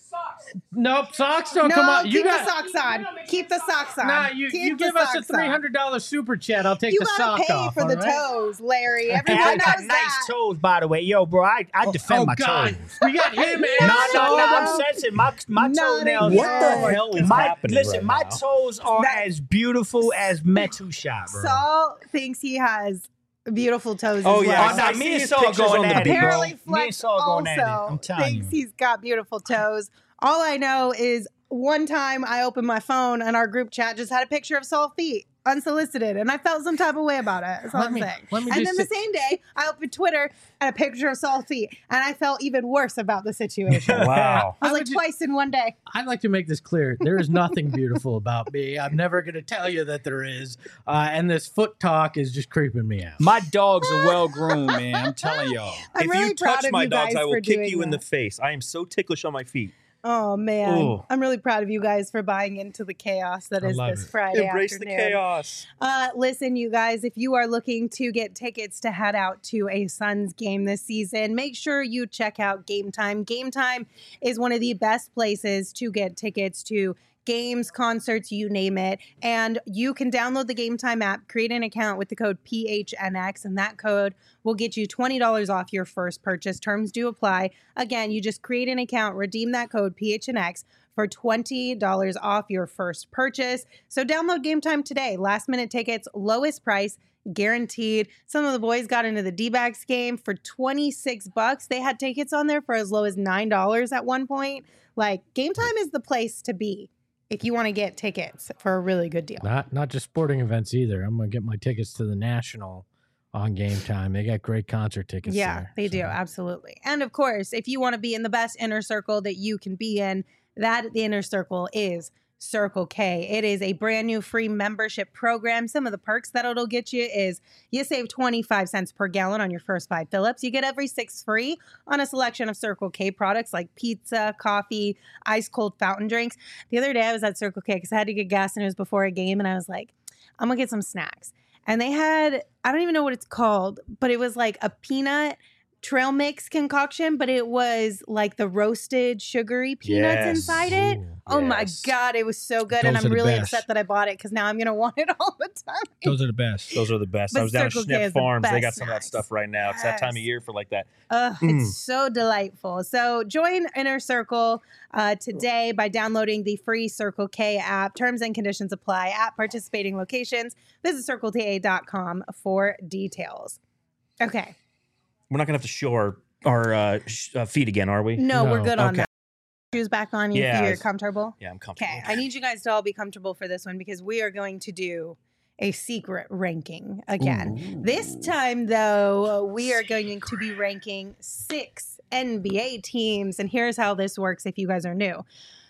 Nope, socks don't no, come on. You keep got the socks on. Keep the socks on. Nah, you, Keep you the give us a socks on. three hundred dollar super chat. I'll take You the gotta sock pay off. for all the right? toes, Larry. Hey, Everyone I knows got nice that. toes, by the way. Yo, bro, I, I defend Oh my God, toes. we got him. No, and no, no, no. I'm sensitive. My my Not toenails. again. What the hell is my, happening Listen, right my now? toes are That- as beautiful as Metu shot, bro. Saul thinks he has beautiful toes Oh, as yeah. well. Oh, no, I me see and his Saul pictures going on the at it, beach. bro. Apparently, Me and Flex Saul going at it. also I'm telling thinks you. he's got beautiful toes. All I know is one time I opened my phone and our group chat just had a picture of Saul feet unsolicited, and I felt some type of way about it. That's all Let I'm me- saying. let me And then just the say- same day, I opened Twitter and a picture of Saul feet, and I felt even worse about the situation. I Wow. was I like would ju- twice in one day. I'd like to make this clear. There is nothing beautiful about me. I'm never going to tell you that there is. Uh, and this foot talk is just creeping me out. My dogs are well groomed, man. I'm telling y'all. I'm if really you proud touch of my you dogs, guys I will for kick doing you in the that. face. I am so ticklish on my feet. Oh man, Ooh. I'm really proud of you guys for buying into the chaos that I is love this it. Friday Embrace afternoon. the chaos. Uh, listen, you guys, if you are looking to get tickets to head out to a Suns game this season, make sure you check out Game Time. Game Time is one of the best places to get tickets to games, concerts, you name it. And you can download the Game Time app, create an account with the code P H N X, and that code will get you twenty dollars off your first purchase. Terms do apply. Again, you just create an account, redeem that code P H N X for twenty dollars off your first purchase. So download Game Time today. Last minute tickets, lowest price, guaranteed. Some of the boys got into the D-backs game for twenty-six bucks. They had tickets on there for as low as nine dollars at one point. Like, Game Time is the place to be if you want to get tickets for a really good deal. Not not just sporting events either. I'm going to get my tickets to the National on Game Time. They got great concert tickets Yeah, there. they do. so. Absolutely. And of course, if you want to be in the best inner circle that you can be in, that the inner circle is Circle K. It is a brand new free membership program. Some of the perks that it'll get you is you save twenty-five cents per gallon on your first five fill-ups. You get every six free on a selection of Circle K products like pizza, coffee, ice cold fountain drinks. The other day I was at Circle K because I had to get gas and it was before a game, and I was like, I'm gonna get some snacks. And they had, I don't even know what it's called, but it was like a peanut trail mix concoction, but it was like the roasted sugary peanuts Yes. inside it. Ooh, Oh my yes. God, it was so good. Those and are I'm the really best. upset that I bought it because now I'm going to want it all the time. Those are the best. Those are the best. But I was down at Circle K is Schnepp the Farms. They got best some of that snacks. stuff right now. It's that time of Yes. year for like that. Uh, Mm. It's so delightful. So join Inner Circle uh, today by downloading the free Circle K app. Terms and conditions apply at participating locations. Visit circle t a dot com for details. Okay. We're not gonna have to show our our uh, sh- uh, feet again, are we? No, we're No. good on Okay. that. Shoes back on you Yeah, if you're it's- comfortable. Yeah, I'm comfortable. Okay, I need you guys to all be comfortable for this one because we are going to do a secret ranking again. This time, though, we are going to be ranking six N B A teams. And here's how this works if you guys are new.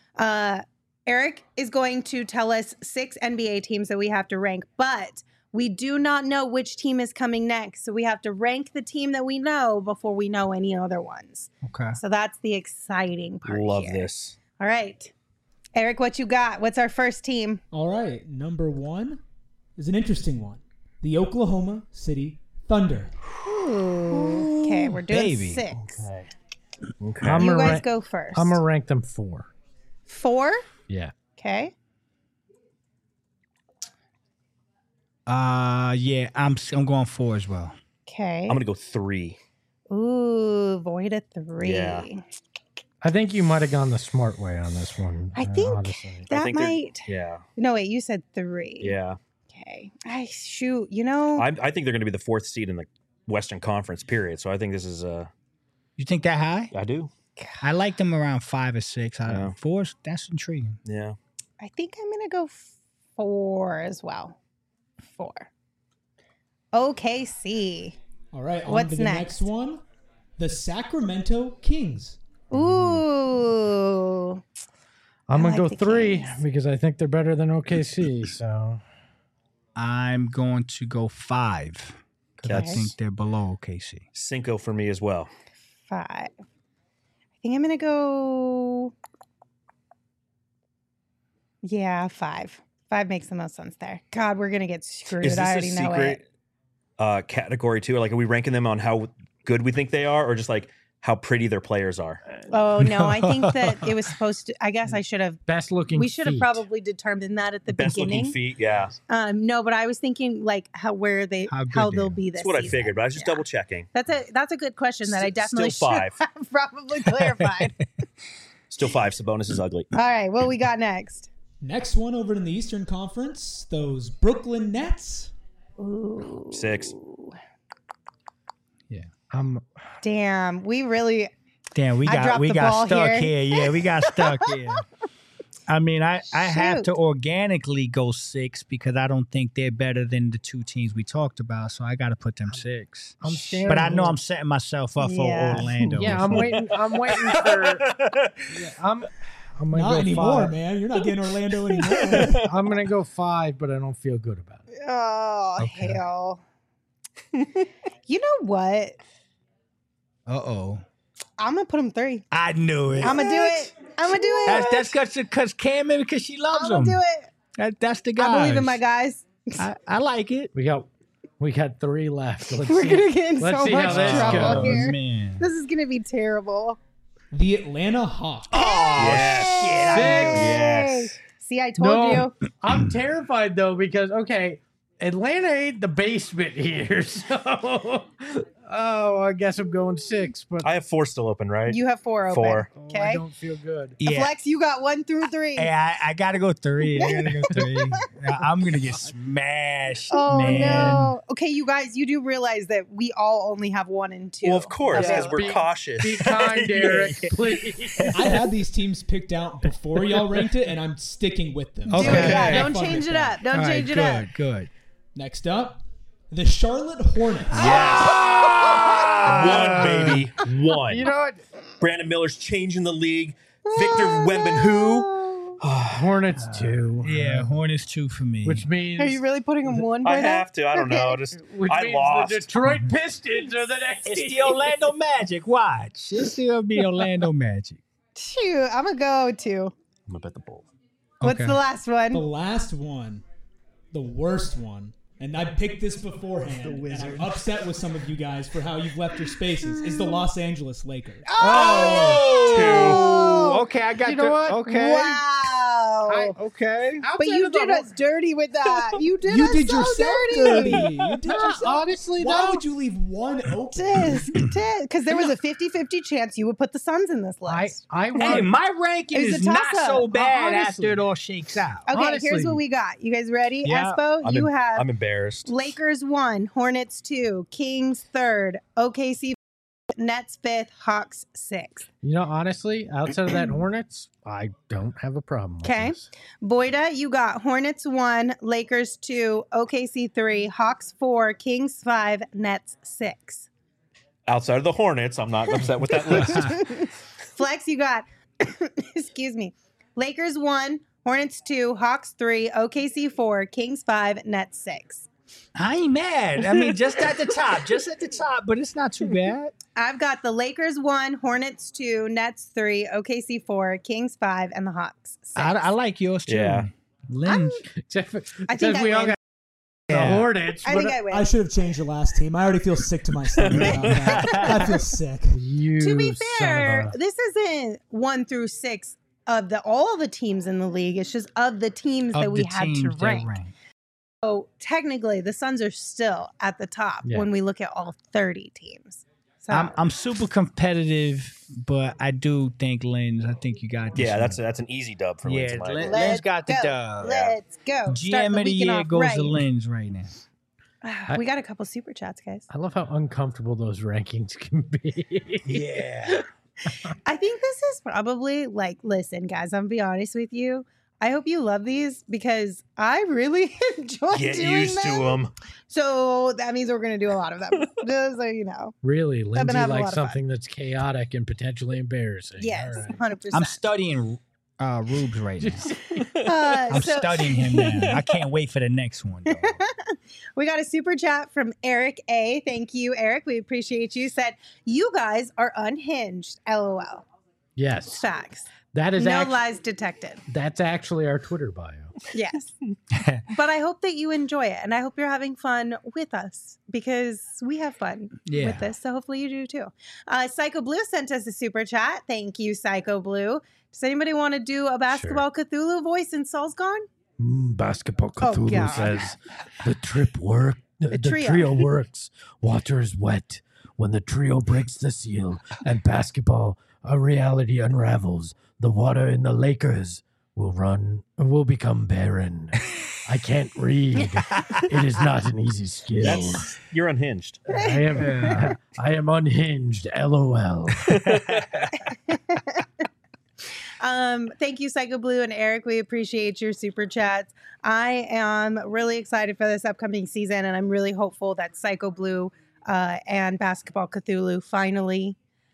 Uh, Eric is going to tell us six N B A teams that we have to rank, but we do not know which team is coming next. So we have to rank the team that we know before we know any other ones. Okay. So that's the exciting part. Love here. this. All right. Eric, what you got? What's our first team? All right, number one is an interesting one. The Oklahoma City Thunder. Ooh. Okay, we're doing baby. six. Okay. Okay. I'm You gonna guys rank- go first. I'm going to rank them four. Four. Yeah. Okay. Uh, yeah, I'm I'm going four as well. Okay. I'm gonna go three. Ooh, void a three. Yeah. I think you might have gone the smart way on this one. I uh, think honestly. I that think they're- might. Yeah. No, wait. You said three. Yeah. Okay. I shoot. You know. I, I think they're gonna be the fourth seed in the Western Conference. Period. So I think this is. Uh, You think that high? I do. I like them around five or six. I Yeah. Four, that's intriguing. Yeah. I think I'm gonna go four as well. Four. O K C. All right, on What's to the next? next one. The Sacramento Kings. Ooh. I'm I going to like go the three Kings. because I think they're better than O K C. So I'm going to go five because I Okay. think they're below O K C. Cinco for me as well. five. I think I'm going to go. Yeah, five. Five makes the most sense there. God, we're going to get screwed. Is this I a already know secret it. uh, category too? Like, are we ranking them on how good we think they are, or just like how pretty their players are? Oh, no. I think that it was supposed to. I guess I should have. Best looking. We should have feet. probably determined that at the Best beginning. looking feet, yeah. Um, no, but I was thinking like how where they How how, good they they'll are. be this. That's what I season. figured, but I was just Yeah. double checking. That's a that's a good question that I S- definitely still should five. have probably clarified. Still five. Sabonis is ugly. All right, what we got next? Next one over in the Eastern Conference, those Brooklyn Nets. Ooh, Six. Yeah. Um, damn, we really. Damn, we I got dropped we the got ball stuck here. here. Yeah, we got stuck here. I mean, I, I have to Shoot. organically go six because I don't think they're better than the two teams we talked about. So I got to put them six. I'm staring. But I know here. I'm setting myself up for Yeah. Orlando. Yeah, I'm waiting. I'm waiting for. Yeah, I'm. I'm gonna Not go anymore, five. man. You're not getting Orlando anymore. I'm gonna go five, but I don't feel good about it. Oh Okay. hell! You know what? Uh oh. I'm gonna put him three. I knew it. I'm gonna do it. I'm gonna do it. That's that's because Cam and because she loves I'm gonna him. do it. That, that's the guy. I believe in my guys. I, I like it. We got. We got three left. Let's We're see. gonna get in Let's so see much how this trouble goes. here. Man. This is gonna be terrible. The Atlanta Hawks. Oh, Yes. shit. I Hey. knew it. Yes. See, I told No. you. I'm terrified though because okay, Atlanta ain't the basement here, so oh, I guess I'm going six. But I have four still open, right? You have four open. Four. oh, I Okay. don't feel good. Yeah. Flex, you got one through three. Hey, I, I gotta go three. I gotta go three. I- I'm gonna get smashed, Oh man. no. Okay, you guys, you do realize that we all only have one and two. Well, of course, because available. we're Be- cautious. Be kind, Eric, please. I had these teams picked out before y'all ranked it, and I'm sticking with them. Okay. Do it, yeah. Okay. Don't Have fun change with it that. up. Don't All right, change it good, up. good. Next up, the Charlotte Hornets. One, baby. One. You know what? Brandon Miller's changing the league. Victor Wembanyama. Hornets two. Yeah, Hornets two for me. Which means Are you really putting them one? I by now? have to. I don't know. Just which I means lost. the Detroit Pistons are the next. it's team. the Orlando Magic. Watch. It's still be Orlando Magic. Shoot, I'm gonna go two. I'm gonna bet the Bulls. What's Okay. the last The one? last one, the worst one, and I picked this beforehand, and I'm upset with some of you guys for how you've left your spaces, is the Los Angeles Lakers. Oh, Okay, I got You know the, what? Okay. Wow. Okay. But you did us dirty with that. You did You us did so yourself dirty. dirty. You did yourself. Honestly, Why though, would you leave one open? Tisk, tisk. Because there was a fifty-fifty chance you would put the Suns in this I list. I Hey, want. my ranking It was is a not toss-up. so bad Honestly. after it all shakes out. Okay, honestly. here's what we got. You guys ready? Yeah. Espo, I'm, you em- have I'm embarrassed. Lakers one, Hornets two, Kings third, O K C Nets fifth, Hawks sixth. You know, honestly, outside of that Hornets, I don't have a problem. with Okay. this. Boyda, you got Hornets one, Lakers two, O K C three, Hawks four, Kings five, Nets six. Outside of the Hornets, I'm not upset with that list. Flex, you got, excuse me, Lakers one, Hornets two, Hawks three, O K C four, Kings five, Nets six. I ain't mad. I mean, just at the top, just at the top, but it's not too bad. I've got the Lakers one, Hornets two, Nets three, O K C four, Kings five, and the Hawks six. I, I like yours too. Yeah. Lynn. Except for, I except think I we all win. got Yeah. the Hornets. I but think I win. I should have changed your last team. I already feel sick to my stomach about that. I feel sick. you to be son of fair, a- this isn't one through six of the all the teams in the league. It's just of the teams Of that we the had to teams that rank. rank. So technically, the Suns are still at the top Yeah. when we look at all thirty teams. So I'm I'm super competitive, but I do think Lynn's. I think you got this. yeah, one. that's that's an easy dub for yeah. Lindsay. Michael. Lynn, Let's Lynn's got the go. dub. Let's go. G Start M the of the weekend year off goes right. to Lynn's right now. We got a couple super chats, guys. I love how uncomfortable those rankings can be. Yeah. I think this is probably like, listen, guys, I'm gonna be honest with you. I hope you love these because I really enjoy Get doing used to them. them. So that means we're gonna do a lot of them. Just so you know. Really, Lindsay having a lot likes of fun. something that's chaotic and potentially embarrassing. Yes, All right. hundred I'm percent. studying uh, Rubes right now. Uh, I'm so- studying him now. I can't wait for the next one. Though. We got a super chat from Eric A. Thank you, Eric. We appreciate you. Said, you guys are unhinged. LOL. Yes. Facts. That is no act- lies detected. That's actually our Twitter bio. Yes. But I hope that you enjoy it. And I hope you're having fun with us because we have fun Yeah. with this. So hopefully you do too. Uh, Psycho Blue sent us a super chat. Thank you, Psycho Blue. Does anybody want to do a basketball Cthulhu voice in Saul's Gone? Mm, basketball Oh, Cthulhu God. says the trip work. The, the trio. trio works. Water is wet. When the trio breaks the seal and basketball, a reality unravels. The water in the Lakers will run. Will become barren. I can't read. It is not an easy skill. That's, you're unhinged. I am. I am unhinged. LOL. Um, thank you, Psycho Blue and Eric. We appreciate your super chats. I am really excited for this upcoming season, and I'm really hopeful that Psycho Blue uh, and Basketball Cthulhu finally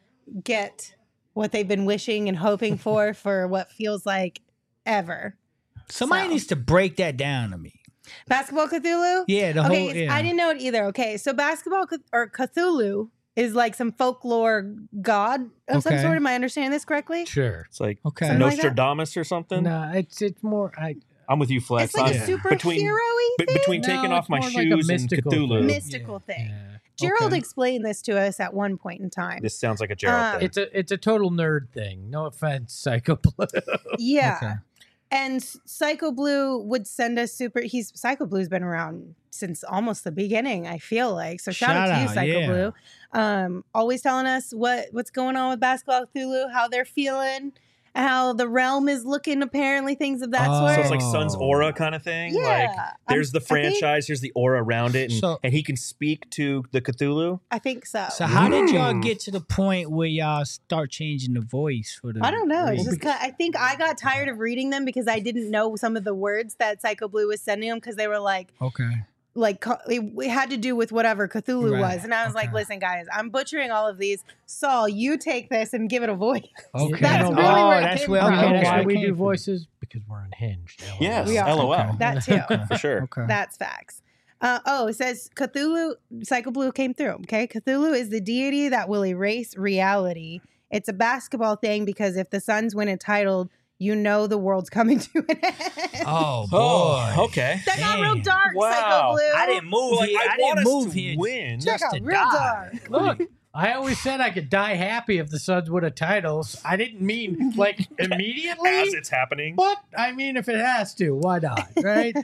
get what they've been wishing and hoping for for what feels like ever. Somebody So. needs to break that down to me. Basketball Cthulhu? Yeah, the okay, whole. Yeah. I didn't know it either. Okay, so Basketball Cth- or Cthulhu is like some folklore god of some Okay. sort. Am I understanding this correctly? Sure. It's like Okay. Something like that? Nostradamus or something. No, it's it's more. I I'm with you, Flex. It's like I'm- a superhero-y between be- thing? between No, taking it's off my more like a shoes and mystical Cthulhu. thing. mystical thing. Yeah. Gerald Okay. explained this to us at one point in time. This sounds like a Gerald Uh, thing. It's a it's a total nerd thing. No offense, Psycho Blue. Yeah. Okay. And S- Psycho Blue would send us super. He's Psycho Blue's been around since almost the beginning. I feel like so. Shout, out Shout to you, out, Psycho yeah. Blue. Um, always telling us what what's going on with Basketball Cthulhu, how they're feeling, how the realm is looking. Apparently, things of that Oh. sort. so it's like Sun's aura kind of thing. yeah. Like there's I'm- the I think- franchise, here's the aura around it, and, So- and he can speak to the Cthulhu. I think so. So how did y'all Mm. get to the point where y'all start changing the voice for the? I don't know. It's reading? just kinda, I think I got tired of reading them because I didn't know some of the words that Psycho Blue was sending them because they were like Okay. like co- it, it had to do with whatever Cthulhu Right, was, and I was like, okay. "Listen, guys, I'm butchering all of these. Saul, you take this and give it a voice." Okay. That's You know really why? where it that's came where. from. You Okay, know that's why where it we came do from. voices? Because we're unhinged. LOL. Yes, We are. LOL. Okay. That too. For sure. Okay. That's facts. Uh, oh, it says Cthulhu. Psycho Blue came through. Okay, Cthulhu is the deity that will erase reality. It's a basketball thing because if the Suns win a title, you know the world's coming to an end. Oh boy. Oh, okay. That got real Damn. dark, Psycho Wow. Blue. I didn't move Like, here. I, I, want didn't us move to here win. That just got to real die. dark. Look, I always said I could die happy if the Suns would have titles. I didn't mean like immediately. As it's happening. But I mean, if it has to, why not? Right?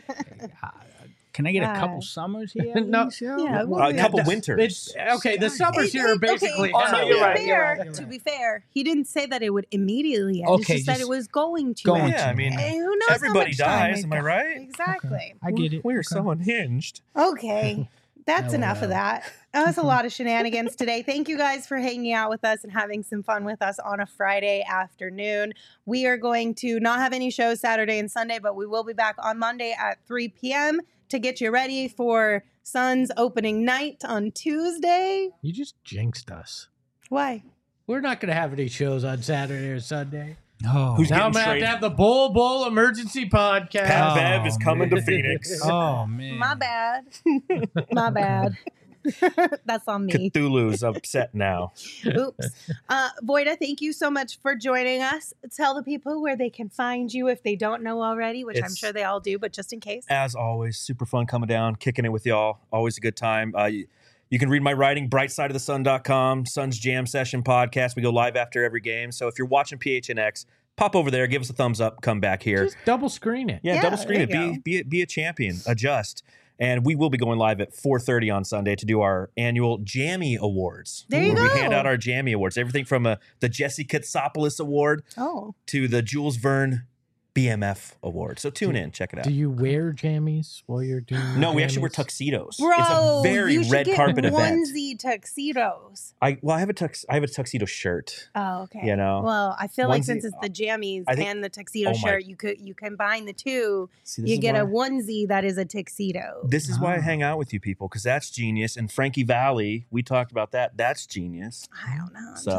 Can I get a God. couple summers here? at No. least, yo? Yeah, What- A Yeah, couple the- winters. It's, okay, the summers It- here are it- basically. Okay, Oh, no, to, you're be right, fair, you're right, you're to right. be fair, he didn't say that it would immediately end. Okay, it's just, that just it was going to going end. Yeah, I mean, And who knows how everybody much time dies, it am I got. right? Exactly. I get it. We're Okay. so unhinged. Okay. That's enough of LOL. that. That was a lot of shenanigans today. Thank you guys for hanging out with us and having some fun with us on a Friday afternoon. We are going to not have any shows Saturday and Sunday, but we will be back on Monday at three p.m. to get you ready for Suns opening night on Tuesday. You just jinxed us. Why? We're not going to have any shows on Saturday or Sunday. No. Who's Now I'm getting going to have to traded? have the Bull Bull Emergency Podcast. Pat Oh, Bev is coming man. to Phoenix. Oh man. My bad. My bad. That's on me. Cthulhu's upset now. Oops. Uh, Voida, thank you so much for joining us. Tell the people where they can find you if they don't know already, which I'm It's- sure they all do, but just in case. As always, super fun coming down, kicking it with y'all. Always a good time. Uh, you, you can read my writing, bright side of the sun dot com, Suns Jam Session podcast. We go live after every game. So if you're watching P H N X, pop over there, give us a thumbs up, come back here. Just double screen it. Yeah, Yeah, double screen it. there you Be, go. be, be a champion. Adjust. And we will be going live at four thirty on Sunday to do our annual Jammy Awards. There you where go. We hand out our Jammy Awards. Everything from uh, the Jesse Katsopoulos Award Oh. to the Jules Verne B M F Award. So tune in, check it out. Do you wear jammies while you're doing No, we actually wear jammies? tuxedos. Bro, it's a very you should red get carpet event. onesie tuxedos. I well, I have a tux. I have a tuxedo shirt. Oh, okay. You know, Well, I feel like onesie- since it's the jammies I think- and the tuxedo oh my- shirt, you could you combine the two. See, this You is get why, a onesie that is a tuxedo. This is why I Ah. hang out with you people because that's genius. And Frankie Valley, we talked about that. That's genius. I don't know. I'm So, just saying.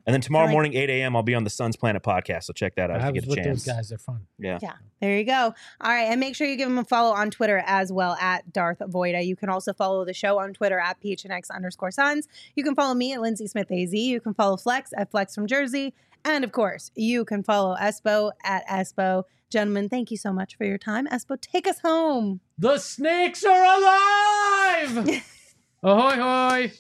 And then tomorrow like- morning, eight a.m., I'll be on the Suns Planet podcast. So check that out I if you was get a with chance. those guys. They're fun. Yeah. Yeah, there you go. All right, and make sure you give him a follow on Twitter as well at Darth Voida. You can also follow the show on Twitter at P H N X underscore Suns. You can follow me at Lindsay Smith A Z. You can follow Flex at Flex from Jersey. And of course, you can follow Espo at Espo. Gentlemen, thank you so much for your time. Espo, take us home. The snakes are alive! Ahoy, hoy!